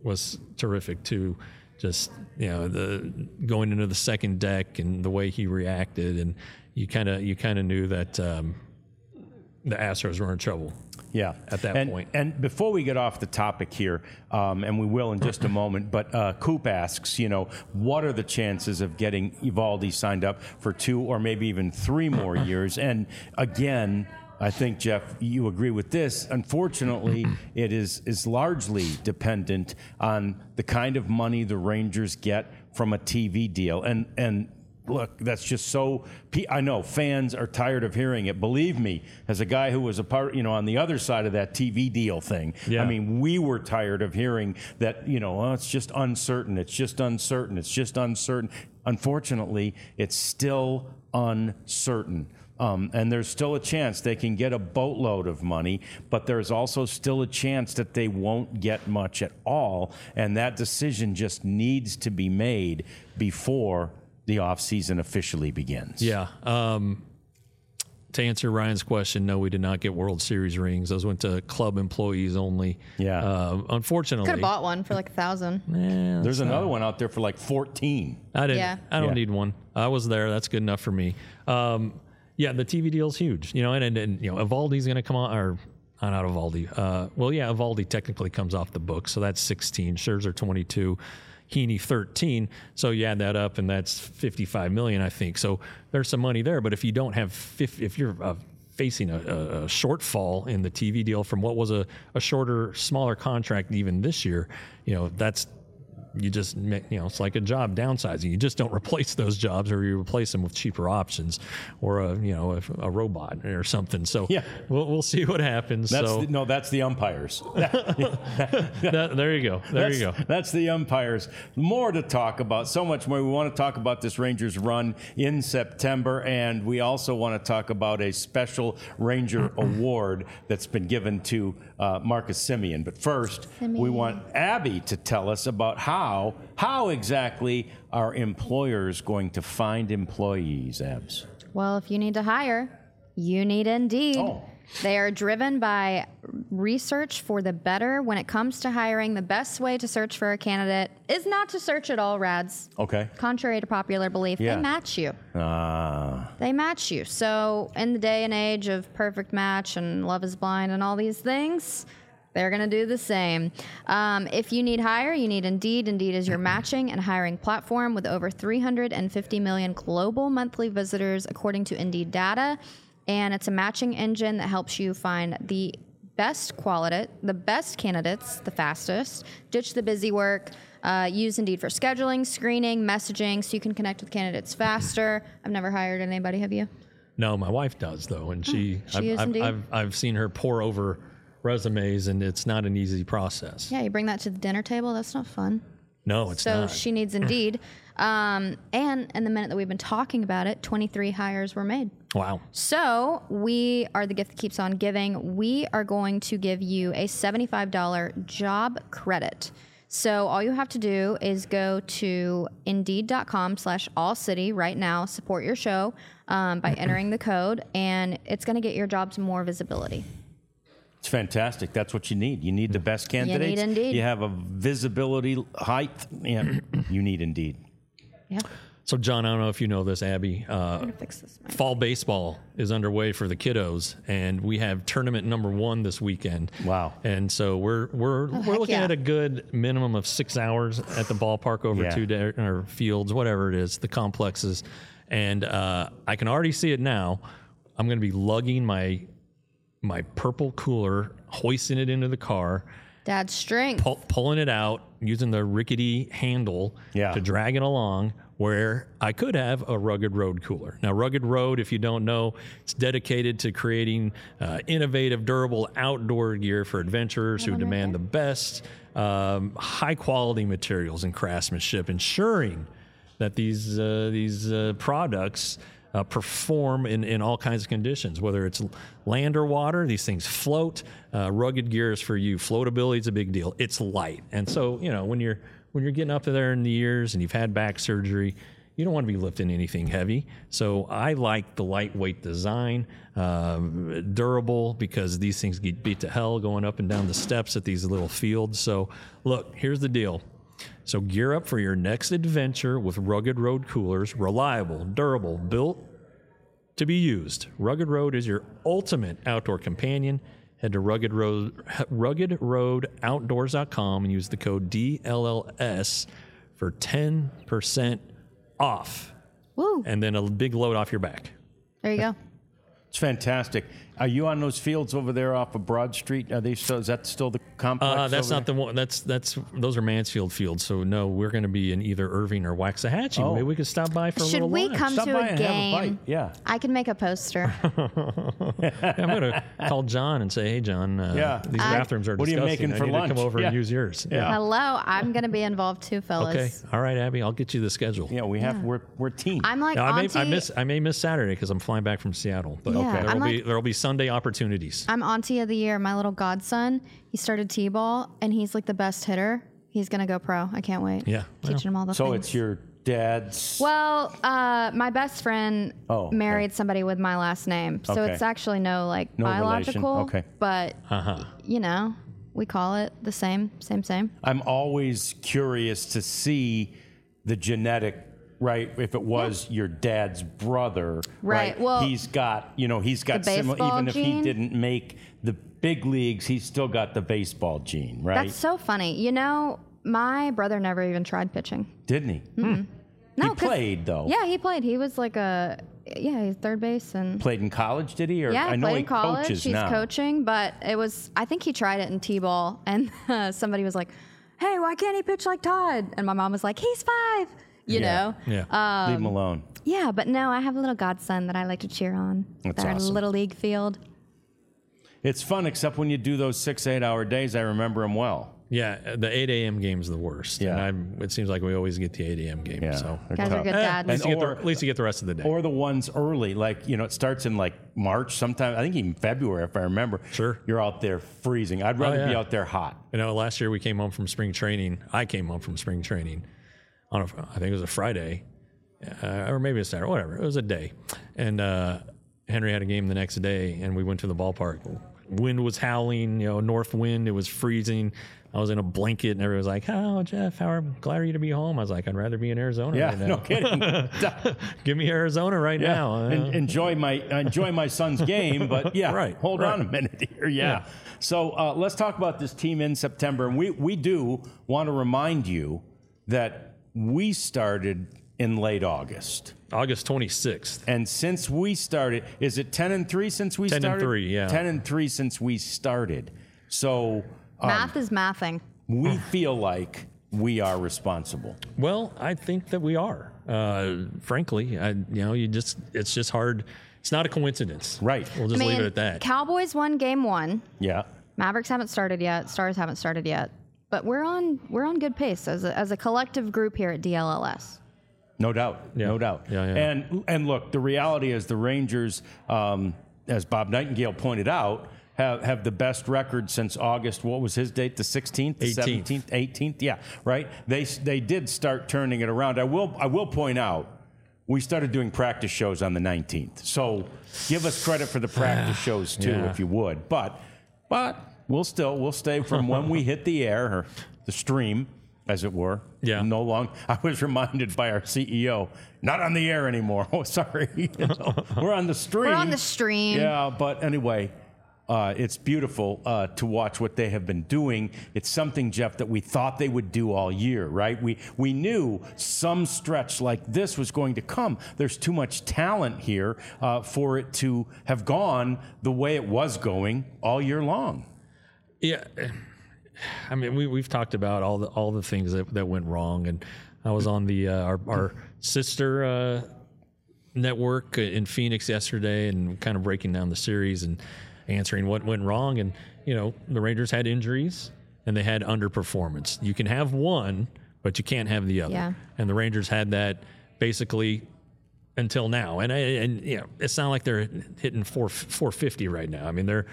was terrific too. Just, you know, the going into the second deck and the way he reacted, and you kind of you kind of knew that um, the Astros were in trouble. Yeah, at that and, point. And before we get off the topic here, um, and we will in just a moment, but uh, Coop asks, you know, what are the chances of getting Eovaldi signed up for two or maybe even three more years? And again, I think, Jeff, you agree with this. Unfortunately, it is, is largely dependent on the kind of money the Rangers get from a T V deal. And, and look, that's just so, I know fans are tired of hearing it. Believe me, as a guy who was a part, you know, on the other side of that T V deal thing, yeah. I mean, we were tired of hearing that, you know, oh, it's just uncertain. It's just uncertain. It's just uncertain. Unfortunately, it's still uncertain. Um, and there's still a chance they can get a boatload of money, but there's also still a chance that they won't get much at all. And that decision just needs to be made before the offseason officially begins. Yeah. Um, to answer Ryan's question, no, we did not get World Series rings. Those went to club employees only. Yeah. Uh, unfortunately. Could have bought one for like a thousand. Eh, There's another not. one out there for like fourteen. I didn't. Yeah. I don't Yeah. need one. I was there. That's good enough for me. Um, yeah, the T V deal's huge. You know, and, and, and you know, Eovaldi's going to come on, or uh, not Eovaldi. Uh, well, yeah, Eovaldi technically comes off the book, so that's sixteen. Scherzer twenty-two. Heaney thirteen, so you add that up, and that's fifty-five million, I think. So there's some money there. But if you don't have, if you're uh, facing a, a shortfall in the T V deal from what was a, a shorter, smaller contract even this year, you know, that's you just, you know, it's like a job downsizing. You just don't replace those jobs, or you replace them with cheaper options, or a, you know, a, a robot or something. So yeah, we'll we'll see what happens. That's so the, no, that's the umpires. that, there you go. There that's, you go. That's the umpires. More to talk about. So much more. We want to talk about this Rangers run in September, and we also want to talk about a special Ranger award that's been given to uh, Marcus Semien. But first, Semien. we want Abby to tell us about how how exactly are employers going to find employees, Abs? Well, if you need to hire, you need Indeed. Oh. They are driven by research for the better. When it comes to hiring, the best way to search for a candidate is not to search at all, Rads. Okay. Contrary to popular belief, Yeah. they match you. Ah. They match you. So in the day and age of Perfect Match and Love is Blind and all these things, they're going to do the same. Um, if you need hire, you need Indeed. Indeed is your matching and hiring platform with over three hundred fifty million global monthly visitors, according to Indeed data. And it's a matching engine that helps you find the best quality, the best candidates, the fastest. Ditch the busy work. Uh, use Indeed for scheduling, screening, messaging, so you can connect with candidates faster. I've never hired anybody, have you? No, my wife does though, and she, she I've, is I've, Indeed? I've, I've seen her pour over resumes, and it's not an easy process. Yeah, you bring that to the dinner table. That's not fun. No, it's so not. she needs Indeed. Um, and in the minute that we've been talking about it, twenty-three hires were made. Wow. So we are the gift that keeps on giving. We are going to give you a seventy-five dollars job credit. So all you have to do is go to Indeed.com slash All City right now, support your show um, by entering the code, and it's going to get your jobs more visibility. It's fantastic. That's what you need. You need the best candidates. need Indeed. You have a visibility height. Yeah, you need Indeed. Yeah. So, John, I don't know if you know this, Abby. Uh, I'm going to fix this. fall baseball is underway for the kiddos, and we have tournament number one this weekend. Wow. And so we're we're Oh, we're heck looking yeah. at a good minimum of six hours at the ballpark over Yeah. two day, or fields, whatever it is, the complexes. And uh, I can already see it now. I'm going to be lugging my my purple cooler, hoisting it into the car, Dad's strength. pull, pulling it out, using the rickety handle Yeah. to drag it along, where I could have a Rugged Road cooler. Now, Rugged Road, if you don't know, it's dedicated to creating uh, innovative, durable outdoor gear for adventurers who demand the best, um, high-quality materials and craftsmanship, ensuring that these uh, these uh, products Uh, perform in, in all kinds of conditions, whether it's land or water. These things float. Uh, rugged gear is for you. Floatability is a big deal. It's light, and so you know when you're when you're getting up there in the years and you've had back surgery, you don't want to be lifting anything heavy. So I like the lightweight design, um, durable, because these things get beat to hell going up and down the steps at these little fields. So look, here's the deal. So gear up for your next adventure with Rugged Road coolers, reliable, durable, built to be used. Rugged Road is your ultimate outdoor companion. Head to Rugged Road, rugged road outdoors dot com and use the code D L L S for ten percent off. Woo. And then a big load off your back. There you go. It's fantastic. Are you on those fields over there off of Broad Street? Are they still? Is that still the complex? Uh, that's over not there? the one. That's that's those are Mansfield fields. So no, we're going to be in either Irving or Waxahachie. Oh. Maybe we could stop by for a Should little we lunch. come Stop to by a and have a game? bite. Yeah. I can make a poster. Yeah, I'm going to call John and say, hey, John, uh, Yeah. these I- bathrooms are What are you disgusting. making I for need lunch? to come over Yeah. and use yours. Yeah. Hello, I'm going to be involved too, fellas. Okay. All right, Abby. I'll get you the schedule. Yeah, we have. We're we're team. I'm like Now, I may auntie. I miss I may miss Saturday because I'm flying back from Seattle. But Yeah, okay, there I'm will be like- there will be Sunday opportunities. I'm auntie of the year. My little godson, he started t-ball, and he's like the best hitter. He's gonna go pro. I can't wait. Yeah, teaching him all the so things. it's your dad's. Well, uh, my best friend Oh, okay. married somebody with my last name, so Okay. it's actually no like No biological. relation. Okay. But Uh-huh. you know, we call it the same, same, same. I'm always curious to see the genetic. Right, if it was your dad's brother, Right, well, he's got, you know, he's got the similar. baseball Even if he gene? didn't make the big leagues, he's still got the baseball gene, right? That's so funny. You know, my brother never even tried pitching. Didn't he? No, he 'cause- played though. Yeah, he played. He was like a yeah, he's third base and Played in college, did he? Or yeah, I know played he in college. coaches He's now. coaching, but it was I think he tried it in t-ball, and uh, somebody was like, "Hey, why can't he pitch like Todd?" And my mom was like, "He's five." You Yeah. know. Yeah. Leave him alone. Yeah, but no, I have a little godson that I like to cheer on. That's Our awesome. little league field. It's fun, except when you do those six, eight-hour days. I remember them well. Yeah, the eight a.m. game's the worst. Yeah. And I'm, it seems like we always get the eight a.m. game. Yeah, So. they're Guys are tough. good Eh, dads. at, least you get the, Or- at least you get the rest of the day. Or the ones early, like, you know, it starts in like March sometime. I think even February, if I remember. Sure. You're out there freezing. I'd rather be yeah. out there hot. You know, last year we came home from spring training. I came home from spring training on a, I think it was a Friday, uh, or maybe a Saturday, whatever. It was a day, and uh, Henry had a game the next day, and we went to the ballpark. Wind was howling, you know, north wind. It was freezing. I was in a blanket, and everybody was like, "Oh, Jeff, how glad are you to be home?" I was like, "I'd rather be in Arizona Yeah, right now. no kidding. Give me Arizona right Yeah, now." Uh, En- enjoy my enjoy my son's game, but yeah, Right, hold right. on a minute here. Yeah. Yeah. So uh, let's talk about this team in September, and we we do want to remind you that we started in late August, August twenty-sixth. and since we started, is it ten and three since we ten and started? three, yeah. ten and three since we started. So um, Math is mathing. we feel like we are responsible. Well, I think that we are. Uh, frankly, I, you know, you just it's just hard. It's not a coincidence, Right. We'll I just mean, leave it at that. Cowboys won game one. Yeah. Mavericks haven't started yet. Stars haven't started yet. But we're on we're on good pace as a, as a collective group here at D L L S. No doubt, Yeah. no doubt. Yeah, yeah. And and look, the reality is the Rangers, um, as Bob Nightingale pointed out, have, have the best record since August. What was his date? The sixteenth, the eighteenth. seventeenth, eighteenth. Yeah, right. They they did start turning it around. I will I will point out. We started doing practice shows on the nineteenth. So give us credit for the practice shows too, Yeah. if you would. But but we'll still we'll stay from when we hit the air or the stream, as it were. Yeah. No long. I was reminded by our C E O, not on the air anymore. Oh, sorry. So, we're on the stream. We're on the stream. Yeah, but anyway, uh, it's beautiful uh, to watch what they have been doing. It's something, Jeff, that we thought they would do all year, right? We we knew some stretch like this was going to come. There's too much talent here uh, for it to have gone the way it was going all year long. Yeah, I mean, we we've talked about all the all the things that, that went wrong, and I was on the uh, our, our sister uh, network in Phoenix yesterday, and kind of breaking down the series and answering what went wrong. And you know, the Rangers had injuries and they had underperformance. You can have one, but you can't have the other. Yeah. And the Rangers had that basically until now. And I, and you know, it's not like they're hitting four four fifty right now. I mean, they're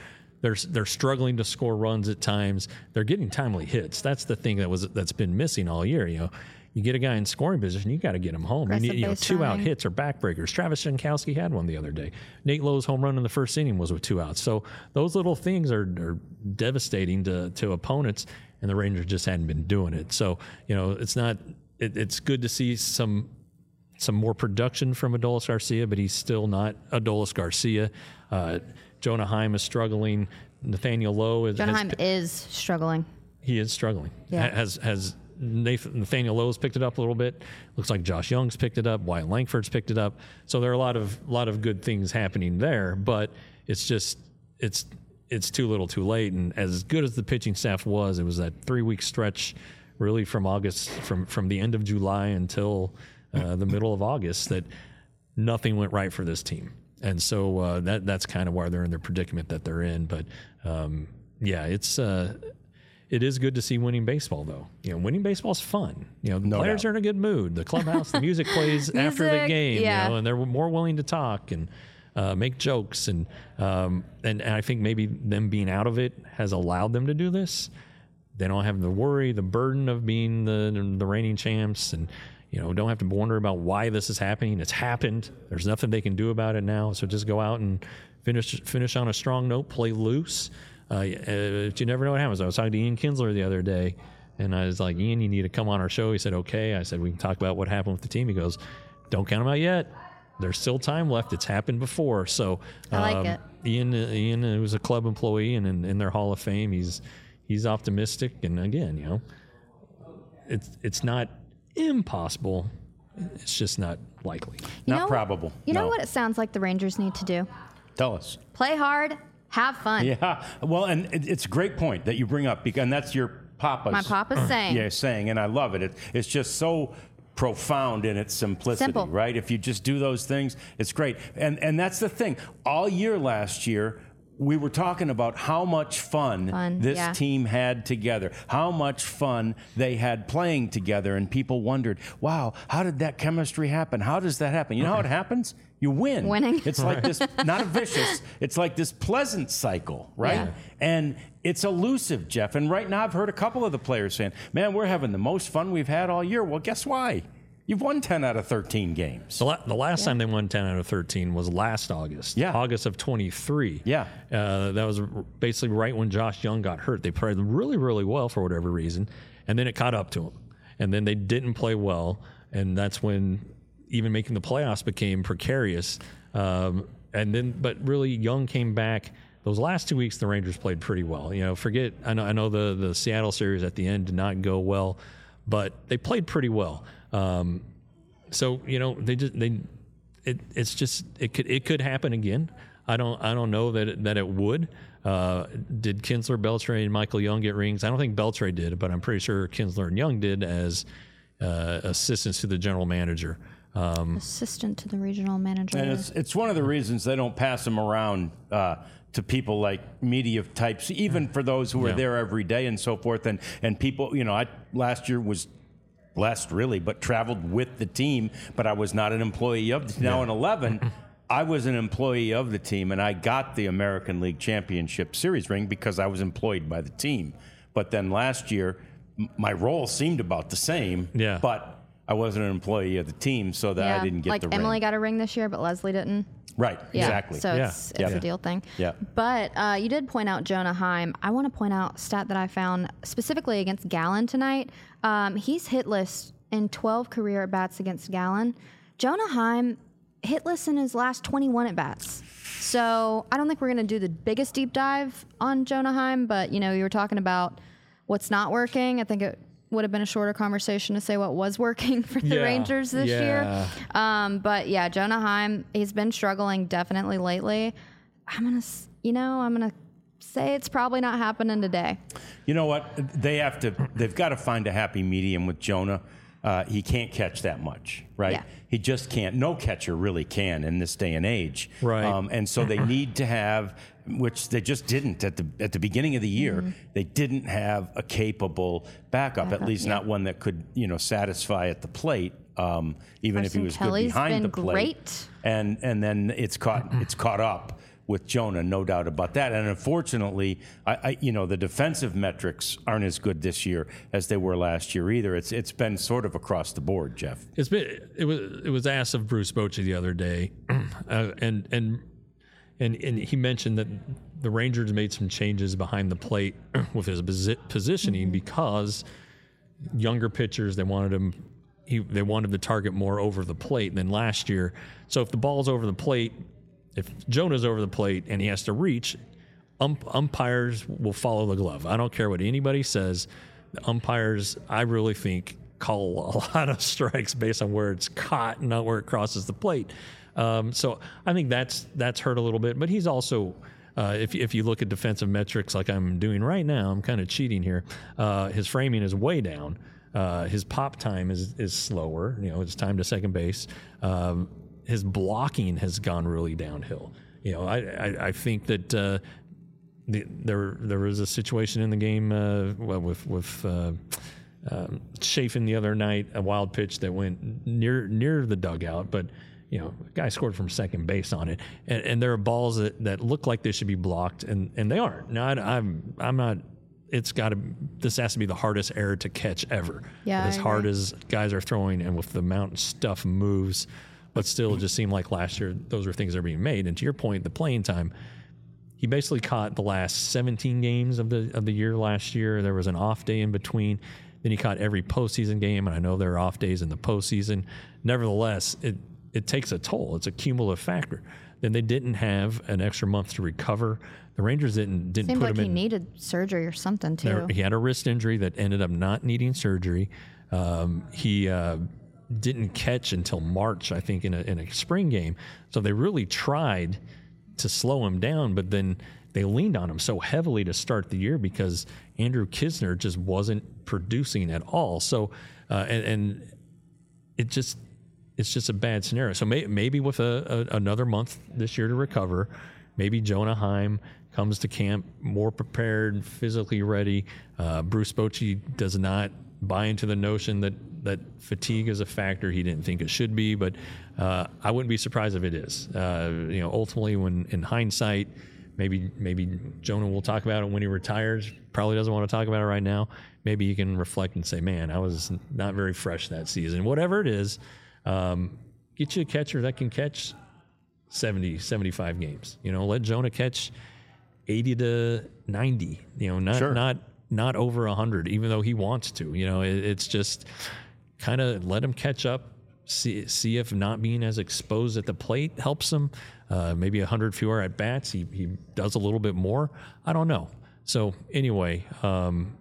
they're they're struggling to score runs at times. They're getting timely hits. That's the thing that was that's been missing all year. You know, you get a guy in scoring position, you got to get him home. You need, you know, two out hits or backbreakers. Travis Jankowski had one the other day. Nate Lowe's home run in the first inning was with two outs. So those little things are, are devastating to to opponents, and the Rangers just hadn't been doing it. So you know, it's not. It, it's good to see some. some more production from Adolis Garcia, but he's still not Adolis Garcia. Uh, Jonah Heim is struggling. Nathaniel Lowe is Jonah Heim is struggling. He is struggling. Yeah. Has has Nathan, Nathaniel Lowe's picked it up a little bit. Looks like Josh Young's picked it up. Wyatt Langford's picked it up. So there are a lot of lot of good things happening there, but it's just it's it's too little, too late. And as good as the pitching staff was, it was that three week stretch, really from August, from from the end of July until Uh, the middle of August, that nothing went right for this team. And so uh, that that's kind of why they're in the predicament that they're in. But um, yeah, it's uh, it is good to see winning baseball, though. You know, winning baseball is fun. You know, the No players doubt. are in a good mood. The clubhouse, the music plays after the Music, game, yeah. you know, and they're more willing to talk and uh, make jokes. And, um, and and I think maybe them being out of it has allowed them to do this. They don't have the worry, the burden of being the the reigning champs, and you know, don't have to wonder about why this is happening. It's happened. There's nothing they can do about it now. So just go out and finish finish on a strong note, play loose. Uh, uh, you never know what happens. I was talking to Ian Kinsler the other day, and I was like, Ian, you need to come on our show. He said, okay. I said, we can talk about what happened with the team. He goes, don't count them out yet. There's still time left. It's happened before. So I like um, it. Ian, Ian uh, was a club employee, and in, in their Hall of Fame, he's he's optimistic. And again, you know, it's it's not impossible. It's just not likely. You Not know, probable. You know No. what it sounds like the Rangers need to do? Tell us. Play hard, have fun. Yeah. Well, and it, it's a great point that you bring up, because, and that's your papa's. My papa's saying. Yeah, saying, and I love it. it. It's just so profound in its simplicity, Simple. right? If you just do those things, it's great. And and that's the thing. All year last year, we were talking about how much fun, Fun, this yeah. team had together, how much fun they had playing together, and people wondered, wow, how did that chemistry happen? How does that happen? You know how it happens? You win. Winning. It's like this, not a vicious, it's like this pleasant cycle, right? Yeah. And it's elusive, Jeff. And right now I've heard a couple of the players saying, man, we're having the most fun we've had all year. Well, guess why? You've won ten out of thirteen games. The, la- the last time they won ten out of thirteen was last August. Yeah. August of twenty-three. Yeah. Uh, that was r- basically right when Josh Young got hurt. They played really, really well for whatever reason, and then it caught up to them. And then they didn't play well, and that's when even making the playoffs became precarious. Um, and then, but really, Young came back. Those last two weeks, the Rangers played pretty well. You know, forget, I know, I know the, the Seattle series at the end did not go well, but they played pretty well. Um, so you know they just they it, it's just it could it could happen again. I don't I don't know that it, that it would. Uh, did Kinsler, Beltre, and Michael Young get rings? I don't think Beltre did, but I'm pretty sure Kinsler and Young did as uh, assistants to the general manager. Um, Assistant to the regional manager. And it's, it's one of the reasons they don't pass them around uh, to people like media types, even for those who are Yeah. there every day and so forth. And, and people, you know, I last year was blessed, really, but traveled with the team, but I was not an employee of the team. Now in eleven, I was an employee of the team, and I got the American League Championship Series ring because I was employed by the team. But then last year, m- my role seemed about the same, Yeah. but I wasn't an employee of the team, so that yeah. I didn't get like the Emily ring. got a ring this year, but Leslie didn't. Right, Yeah. exactly. So Yeah. it's, it's Yeah. a deal thing. Yeah. But uh, you did point out Jonah Heim. I want to point out a stat that I found specifically against Gallen tonight. Um, he's hitless in twelve career at bats against Gallen. Jonah Heim hitless in his last twenty-one at bats. So I don't think we're going to do the biggest deep dive on Jonah Heim, but you know, you were talking about what's not working. I think it would have been a shorter conversation to say what was working for the Yeah. Rangers this Yeah. year. Um, but yeah, Jonah Heim, he's been struggling definitely lately. I'm gonna, s- you know, I'm gonna say it's probably not happening today. You know what? They have to. They've got to find a happy medium with Jonah. Uh, he can't catch that much, right? Yeah. He just can't. No catcher really can in this day and age, Right. Um, and so they need to have, which they just didn't at the at the beginning of the year. Mm-hmm. They didn't have a capable backup, at Backup, least yeah. not one that could, you know, satisfy at the plate. Um, even if he Carson was Kelly's good behind been the plate, great. and and then it's caught it's caught up with Jonah, no doubt about that. And unfortunately, I, I, you know, the defensive metrics aren't as good this year as they were last year either. It's it's been sort of across the board, Jeff. It's been it was it was asked of Bruce Bochy the other day, uh, and and and and he mentioned that the Rangers made some changes behind the plate with his posi- positioning because younger pitchers, they wanted him. He, they wanted to target more over the plate than last year. So if the ball's over the plate, if Jonah's over the plate and he has to reach, ump, umpires will follow the glove. I don't care what anybody says. The umpires, I really think, call a lot of strikes based on where it's caught and not where it crosses the plate. Um, so I think that's that's hurt a little bit. But he's also, uh, if if you look at defensive metrics like I'm doing right now, I'm kind of cheating here. Uh, his framing is way down. Uh, his pop time is is slower. You know, his time to second base. Um, his blocking has gone really downhill. You know, I I, I think that uh, the, there there was a situation in the game uh, well, with with uh, um, Chafin the other night, a wild pitch that went near near the dugout, but you know, a guy scored from second base on it, and, and there are balls that, that look like they should be blocked, and, and they aren't. Now I, I'm I'm not. It's got to. This has to be the hardest error to catch ever. Yeah, as I hard agree. as guys are throwing, and with the amount stuff moves, but still, it just seemed like last year those are things that are being made. And to your point, the playing time, he basically caught the last seventeen games of the of the year last year. There was an off day in between. Then he caught every postseason game, and I know there are off days in the postseason. Nevertheless, it it takes a toll. It's a cumulative factor. Then they didn't have an extra month to recover. The Rangers didn't didn't Seemed put like him he in. needed surgery or something too. There, he had a wrist injury that ended up not needing surgery. Um, he uh, didn't catch until March, I think, in a, in a spring game. So they really tried to slow him down, but then they leaned on him so heavily to start the year because Andrew Knizner just wasn't producing at all. So, uh, and, and it just it's just a bad scenario. So may, maybe with a, a, another month this year to recover, maybe Jonah Heim comes to camp more prepared, physically ready. Uh, Bruce Bochy does not buy into the notion that, that fatigue is a factor. He didn't think it should be, but uh, I wouldn't be surprised if it is. Uh, you know, ultimately, when in hindsight, maybe maybe Jonah will talk about it when he retires. Probably doesn't want to talk about it right now. Maybe he can reflect and say, "Man, I was not very fresh that season." Whatever it is, um, get you a catcher that can catch seventy, seventy-five games. You know, let Jonah catch eighty to ninety, you know, not Sure. not not over one hundred, even though he wants to. You know, it, it's just kind of let him catch up, see see if not being as exposed at the plate helps him. Uh, maybe one hundred fewer at bats, he he does a little bit more. I don't know. So anyway, um,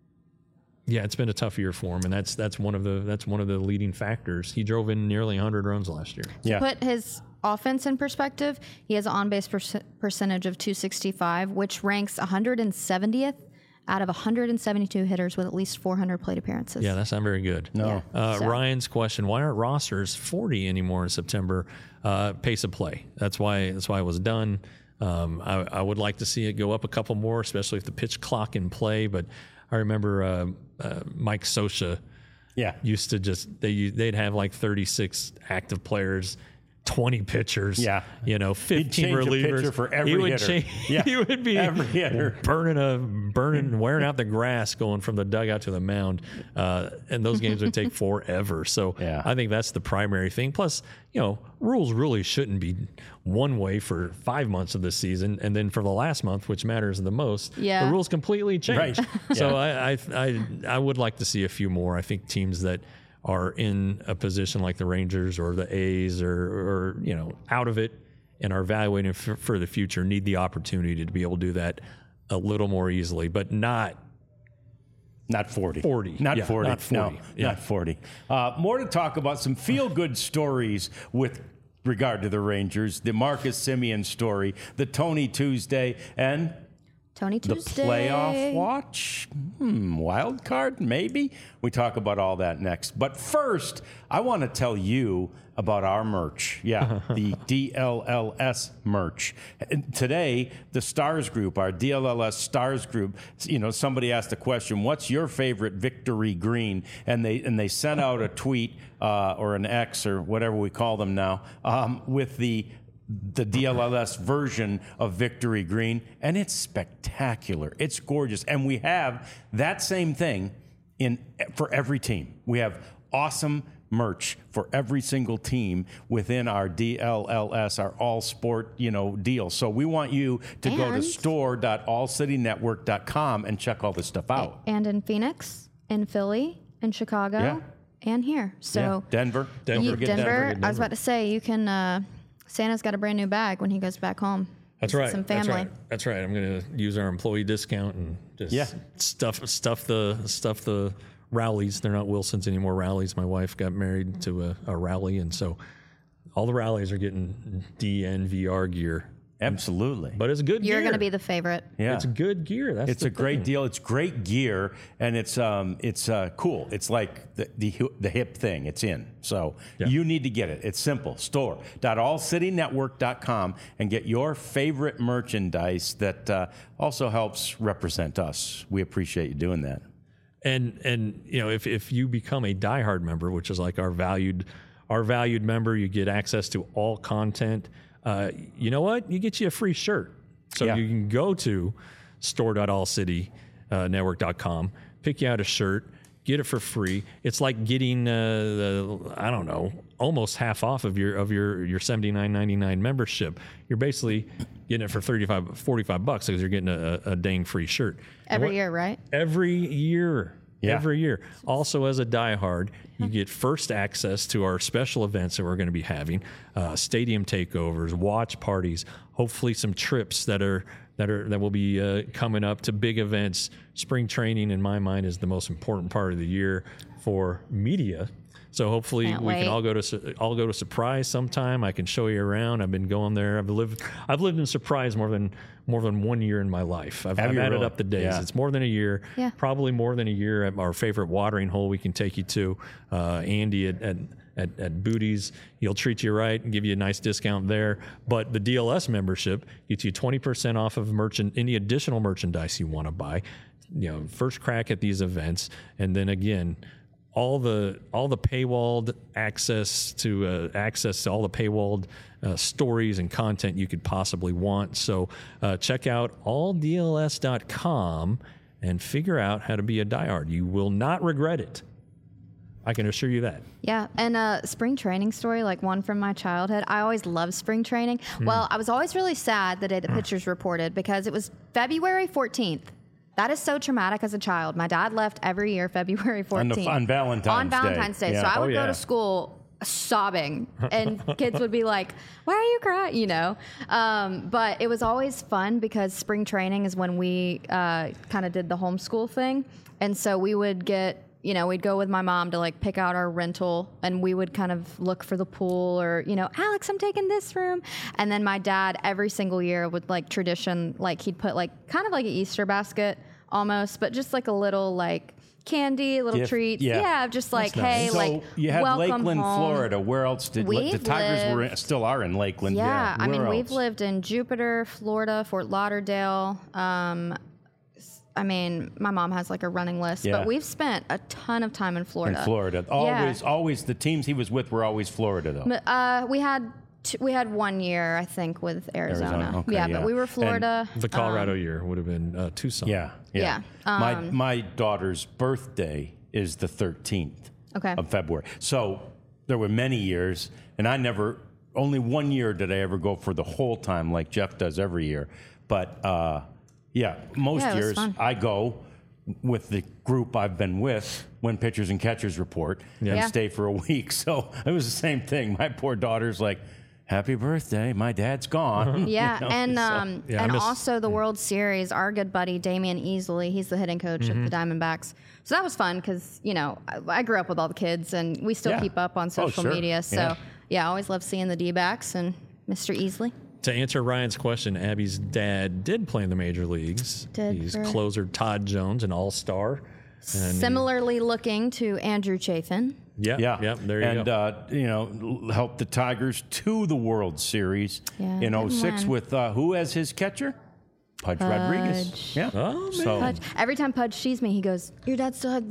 yeah, it's been a tough year for him, and that's that's one of the that's one of the leading factors. He drove in nearly one hundred runs last year. Yeah. Put his offense in perspective, he has an on-base per- percentage of two sixty-five, which ranks one hundred seventieth out of one hundred seventy-two hitters with at least four hundred plate appearances. Yeah, that's not very good. No. Uh, So- Ryan's question: why aren't rosters forty anymore in September? Uh, pace of play. That's why. That's why it was done. Um, I, I would like to see it go up a couple more, especially if the pitch clock in play. But I remember uh, uh, Mike Scioscia Yeah. used to just they they'd have like thirty-six active players, twenty pitchers, Yeah. you know, fifteen change a relievers. pitcher for every he would hitter. change, Yeah. he would be Every hitter. burning a burning, wearing out the grass, going from the dugout to the mound, uh, and those games would take forever. So Yeah. I think that's the primary thing. Plus, you know, rules really shouldn't be one way for five months of the season, and then for the last month, which matters the most, Yeah. the rules completely change. Right. So Yeah. I, I I I would like to see a few more. I think teams that are in a position like the Rangers or the A's or, or you know, out of it and are evaluating for, for the future need the opportunity to be able to do that a little more easily, but not Not forty. forty. Not Yeah, forty. not forty. No, Yeah. not forty. Uh, more to talk about. Some feel-good stories with regard to the Rangers. The Marcus Semien story, the Tony Tuesday, and Tony the Tuesday. playoff watch. Hmm, wild card, maybe? We talk about all that next. But first, I want to tell you about our merch. Yeah, the D L L S merch. And today, the Stars Group, our D L L S Stars Group, you know, somebody asked the question, what's your favorite victory green? And they and they sent out a tweet uh, or an X or whatever we call them now um, with the the D L L S version of Victory Green, and it's spectacular. It's gorgeous. And we have that same thing in for every team. We have awesome merch for every single team within our D L L S, our all sport, you know, deal. So we want you to go to And- store dot all city network dot com and check all this stuff out. And in Phoenix, in Philly, in Chicago, Yeah. and here. So Yeah. Denver. Don't you- forget Denver, Denver. I was about to say, you can. Uh, Santa's got a brand new bag when he goes back home. That's Visit right. Some That's family. right. That's right. I'm going to use our employee discount and just Yeah. stuff stuff the stuff the rallies. They're not Wilsons anymore. Rallies. My wife got married to a, a rally, and so all the rallies are getting D N V R gear. Absolutely. But it's good You're gear. going to be the favorite. Yeah. It's good gear. That's It's the a great thing. deal. It's great gear, and it's um, it's uh, cool. It's like the, the the hip thing. It's in. So Yeah. you need to get it. It's simple. store dot all city network dot com and get your favorite merchandise that uh, also helps represent us. We appreciate you doing that. And and you know, if if you become a diehard member, which is like our valued our valued member, you get access to all content. Uh, you know what? You get you a free shirt. So Yeah. you can go to store dot all city network dot com, pick you out a shirt, get it for free. It's like getting uh, the I don't know, almost half off of your of your your seventy-nine ninety-nine membership. You're basically getting it for thirty-five, forty-five bucks because you're getting a, a dang free shirt. And Every what- year, right? Every year. Yeah. Every year. Also, as a diehard, you get first access to our special events that we're going to be having, uh, stadium takeovers, watch parties, hopefully some trips that are that are that will be uh, coming up to big events. Spring training, in my mind, is the most important part of the year for media. So hopefully Can't we wait. can all go to Su- all go to Surprise sometime. I can show you around. I've been going there. I've lived I've lived in Surprise more than more than one year in my life. I've, Have I've you added really? up the days. Yeah. It's more than a year. Yeah. Probably more than a year at our favorite watering hole we can take you to. Uh, Andy at, at at at Booties, he'll treat you right and give you a nice discount there. But the D L S membership gets you twenty percent off of merchant any additional merchandise you want to buy. You know, first crack at these events, and then again. All the all the paywalled access to uh, access to all the paywalled uh, stories and content you could possibly want. So uh, check out all D L S dot com and figure out how to be a diehard. You will not regret it. I can assure you that. Yeah, and a spring training story, like one from my childhood. I always loved spring training. Hmm. Well, I was always really sad the day the pitchers reported because it was February fourteenth. That is so traumatic as a child. My dad left every year February On, the, fourteenth. on Valentine's On Day. Valentine's Day. Yeah. So I would Oh, go yeah. to school sobbing, and kids would be like, "Why are you crying?" You know. Um, but it was always fun because spring training is when we uh, kind of did the homeschool thing, and so we would get. You know, we'd go with my mom to like pick out our rental, and we would kind of look for the pool, or you know, Alex, I'm taking this room. And then my dad every single year would like tradition, like he'd put like kind of like an Easter basket almost, but just like a little like candy, little Gift, treats. yeah. Yeah, just like hey, So like you had welcome Lakeland, home. Florida. Where else did We've the Tigers were in, lived- still are in Lakeland? Yeah, I Where mean, we've else? lived in Jupiter, Florida, Fort Lauderdale. Um, s- I mean, my mom has like a running list, Yeah. but we've spent a ton of time in Florida. in Florida. Always, always the teams he was with were always Florida though. But, uh, we had t- we had one year, I think, with Arizona. Arizona, okay, yeah, yeah. but we were Florida. The Colorado year would have been uh, Tucson. Yeah, yeah. Yeah, my um, my daughter's birthday is the thirteenth Okay. of February. So there were many years, and I never. Only one year did I ever go for the whole time like Jeff does every year. But uh, yeah, most Yeah, it was years fun. I go with the group I've been with when pitchers and catchers report and Yeah. stay for a week. So it was the same thing. My poor daughter's like, "Happy birthday! My dad's gone." Yeah, You know, and so- um, Yeah, I and miss- also the World Series. Our good buddy Damian Easley, he's the hitting coach Mm-hmm. of the Diamondbacks. So that was fun because you know I, I grew up with all the kids, and we still Yeah. keep up on Oh, social sure. media. So Yeah. yeah. I always love seeing the D-backs and Mister Easley. To answer Ryan's question, Abby's dad did play in the major leagues. Did He's for- closer Todd Jones, an all-star. And he- Similarly looking to Andrew Chafin. Yeah, Yeah, yeah, there you and, go. uh, you know, l- helped the Tigers to the World Series Yeah, in didn't oh six win. with uh, who as his catcher? Pudge, Rodriguez. Pudge. Yeah. Oh, man. So, Pudge. Every time Pudge sees me, he goes, "Your dad still had the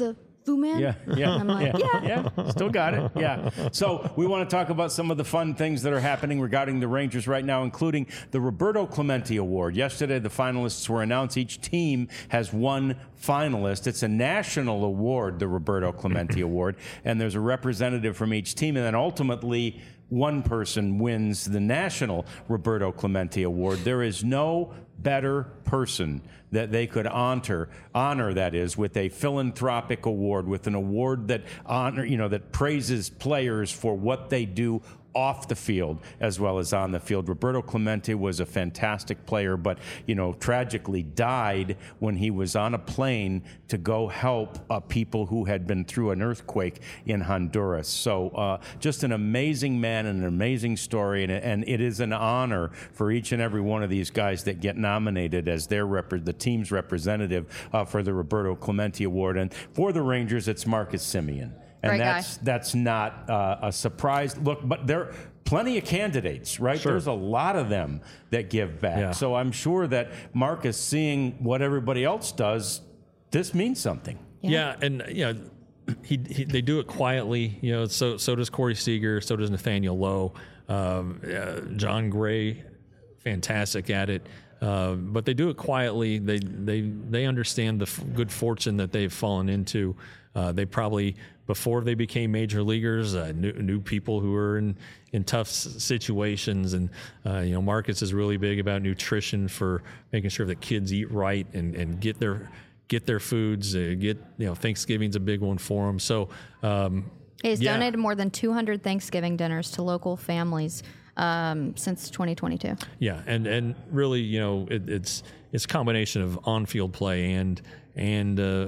Fu Man? Yeah, yeah, I'm like, yeah, yeah, still got it. Yeah. So we want to talk about some of the fun things that are happening regarding the Rangers right now, including the Roberto Clemente Award. Yesterday, the finalists were announced. Each team has one finalist. It's a national award, the Roberto Clemente Award, and there's a representative from each team, and then ultimately one person wins the national Roberto Clemente Award. There is no better person that they could honor, honor that is, with a philanthropic award, with an award that honor, you know, that praises players for what they do off the field as well as on the field. Roberto Clemente was a fantastic player, but, you know, tragically died when he was on a plane to go help uh, people who had been through an earthquake in Honduras. So uh, just an amazing man and an amazing story, and, and it is an honor for each and every one of these guys that get nominated as their rep- the team's representative uh, for the Roberto Clemente Award. And for the Rangers, it's Marcus Semien. And Great that's guy. that's not uh, a surprise. Look, but there are plenty of candidates, right? Sure. There's a lot of them that give back. Yeah. So I'm sure that Marcus, seeing what everybody else does, this means something. Yeah, yeah and you know, he, he they do it quietly. You know, so so does Corey Seager, so does Nathaniel Lowe, um, uh, John Gray, fantastic at it. Uh, but they do it quietly. They they they understand the f- good fortune that they've fallen into. Uh, they probably, before they became major leaguers, uh, knew, knew people who were in, in tough s- situations. And, uh, you know, Marcus is really big about nutrition for making sure that kids eat right and, and get their get their foods. Uh, get, you know, Thanksgiving's a big one for them. So, um, He's yeah. donated more than two hundred Thanksgiving dinners to local families um, since twenty twenty-two. Yeah, and, and really, you know, it, it's it's a combination of on-field play and and uh,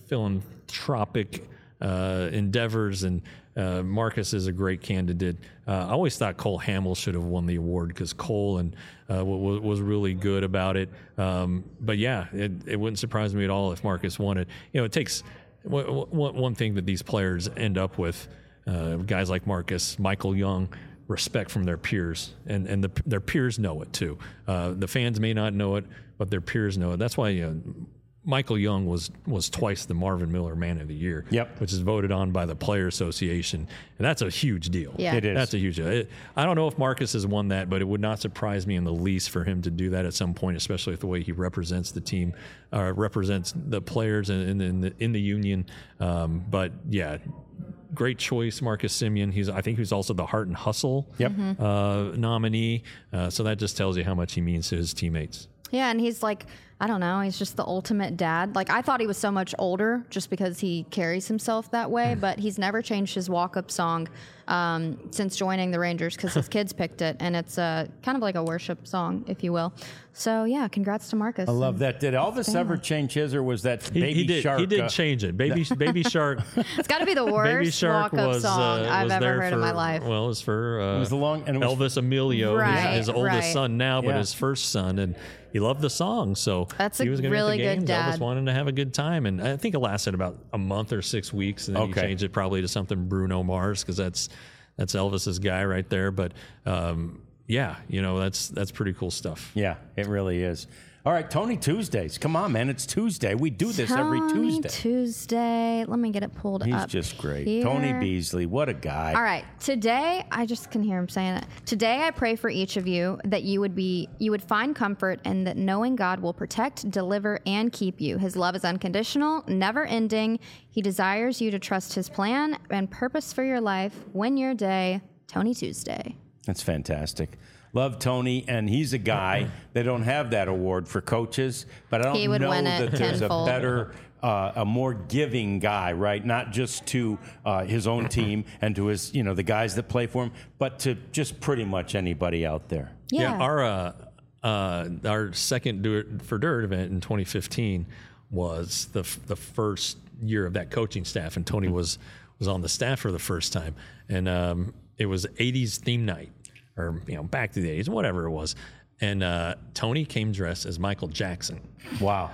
philanthropic uh, endeavors, and uh, Marcus is a great candidate. Uh, I always thought Cole Hamill should have won the award because Cole and uh, w- was really good about it. Um, but yeah, it, it wouldn't surprise me at all if Marcus won it. You know, it takes w- w- one thing that these players end up with, uh, guys like Marcus, Michael Young, respect from their peers, and and the, their peers know it too. Uh, the fans may not know it, but their peers know it. That's why you know, Michael Young was was twice the Marvin Miller Man of the Year, Yep. which is voted on by the Player Association, and that's a huge deal. Yeah. It is. That's a huge deal. It, I don't know if Marcus has won that, but it would not surprise me in the least for him to do that at some point, especially with the way he represents the team, uh, represents the players in, in, in, the, in the union. Um, but yeah. Great choice, Marcus Semien. He's, I think, he's also the Heart and Hustle Yep. uh, nominee. Uh, so that just tells you how much he means to his teammates. Yeah, and he's like, I don't know, he's just the ultimate dad. Like, I thought he was so much older just because he carries himself that way, but he's never changed his walk-up song um, since joining the Rangers because his kids picked it, and it's a, kind of like a worship song, if you will. So, yeah, congrats to Marcus. I love that. Did Elvis ever change his, or was that He, Baby he did. Shark? He did uh, change it. Baby Baby Shark. It's got to be the Baby worst Shark walk-up was song uh, I've was ever there heard for, in my life. Well, it was for uh, It was the long- and it was- Elvis Emilio, his- Right, his, oldest right. son now, but Yeah. his first son, and he loved the song. So That's a he was gonna really hit the good games. Elvis dad. wanted to have a good time, and I think it lasted about a month or six weeks, and then Okay. he changed it probably to something Bruno Mars because that's that's Elvis's guy right there. But um, yeah, you know that's that's pretty cool stuff. Yeah, it really is. All right, Tony Tuesdays. Come on, man. It's Tuesday. We do this every Tony Tuesday. Tuesday. Let me get it pulled He's up. just great. here. Tony Beasley, what a guy. All right. Today, I just can hear him saying it. Today, I pray for each of you that you would be, you would find comfort, and that knowing God will protect, deliver, and keep you. His love is unconditional, never ending. He desires you to trust His plan and purpose for your life. Win your day, Tony Tuesday. That's fantastic. Love Tony, and he's a guy. They don't have that award for coaches, but I don't He would know win it that there's tenfold. a better, uh, a more giving guy, right? Not just to uh, his own team and to his, you know, the guys that play for him, but to just pretty much anybody out there. Yeah. our uh, uh, our second Do It for Dirt event in twenty fifteen was the f- the first year of that coaching staff, and Tony was was on the staff for the first time, and um, it was eighties theme night, or you know, back to the eighties, whatever it was, and uh, Tony came dressed as Michael Jackson Wow.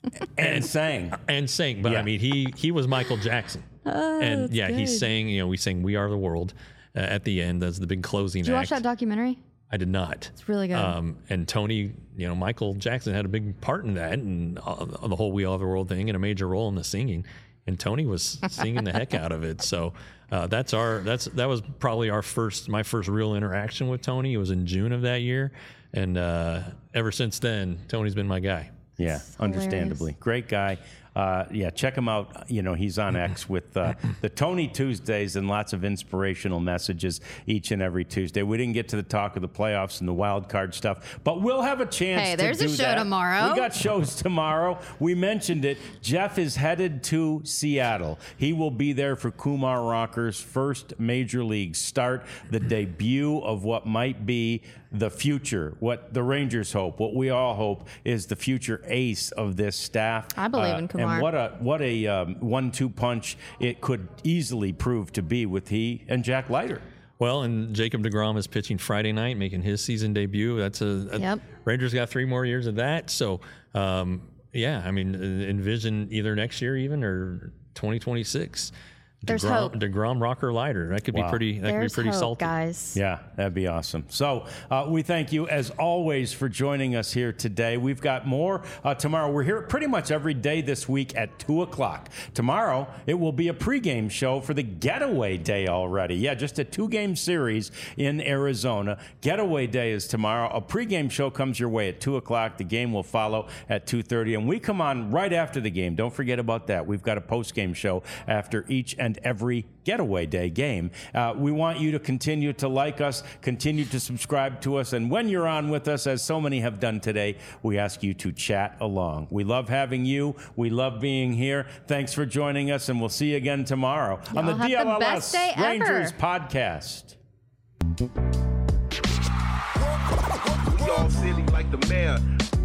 And sang. and sang, but Yeah. I mean, he he was Michael Jackson, and yeah, he sang. You know, we sang "We Are the World" uh, at the end. That's the big closing Did you act. watch that documentary? I did not. It's really good. Um, and Tony, you know, Michael Jackson had a big part in that, and uh, the whole "We Are the World" thing, and a major role in the singing. and Tony was singing the heck out of it. So uh, that's our that's that was probably our first my first real interaction with Tony. It was in June of that year, and uh, ever since then, Tony's been my guy. Yeah, understandably. Great guy. Uh, yeah, check him out. You know, he's on X with uh, the Tony Tuesdays and lots of inspirational messages each and every Tuesday. We didn't get to the talk of the playoffs and the wild card stuff, but we'll have a chance hey, to there's do a show that. tomorrow. We got shows tomorrow. We mentioned it. Jeff is headed to Seattle. He will be there for Kumar Rocker's first major league start, the debut of what might be the future, what the Rangers hope, what we all hope is the future ace of this staff. I believe uh, in Kumar. And what a what a um, one two punch it could easily prove to be with he and Jack Leiter. Well, and Jacob deGrom is pitching Friday night, making his season debut. That's a, a yep. Rangers got three more years of that. So, um, yeah, I mean, envision either next year even or twenty twenty-six. There's DeGrom, hope. DeGrom, Rocker, Leiter. That could wow. be pretty. That There's could be pretty hope, salty, guys. Yeah, that'd be awesome. So uh, we thank you as always for joining us here today. We've got more uh, tomorrow. We're here pretty much every day this week at two o'clock. Tomorrow it will be a pregame show for the Getaway Day already. Yeah, just a two-game series in Arizona. Getaway Day is tomorrow. A pregame show comes your way at two o'clock. The game will follow at two thirty, and we come on right after the game. Don't forget about that. We've got a postgame show after each and every Getaway Day game. Uh, we want you to continue to like us, continue to subscribe to us, and when you're on with us, as so many have done today, we ask you to chat along. We love having you. We love being here. Thanks for joining us, and we'll see you again tomorrow Y'all on the have D L L S the best day Rangers ever. podcast. We all silly like the mayor.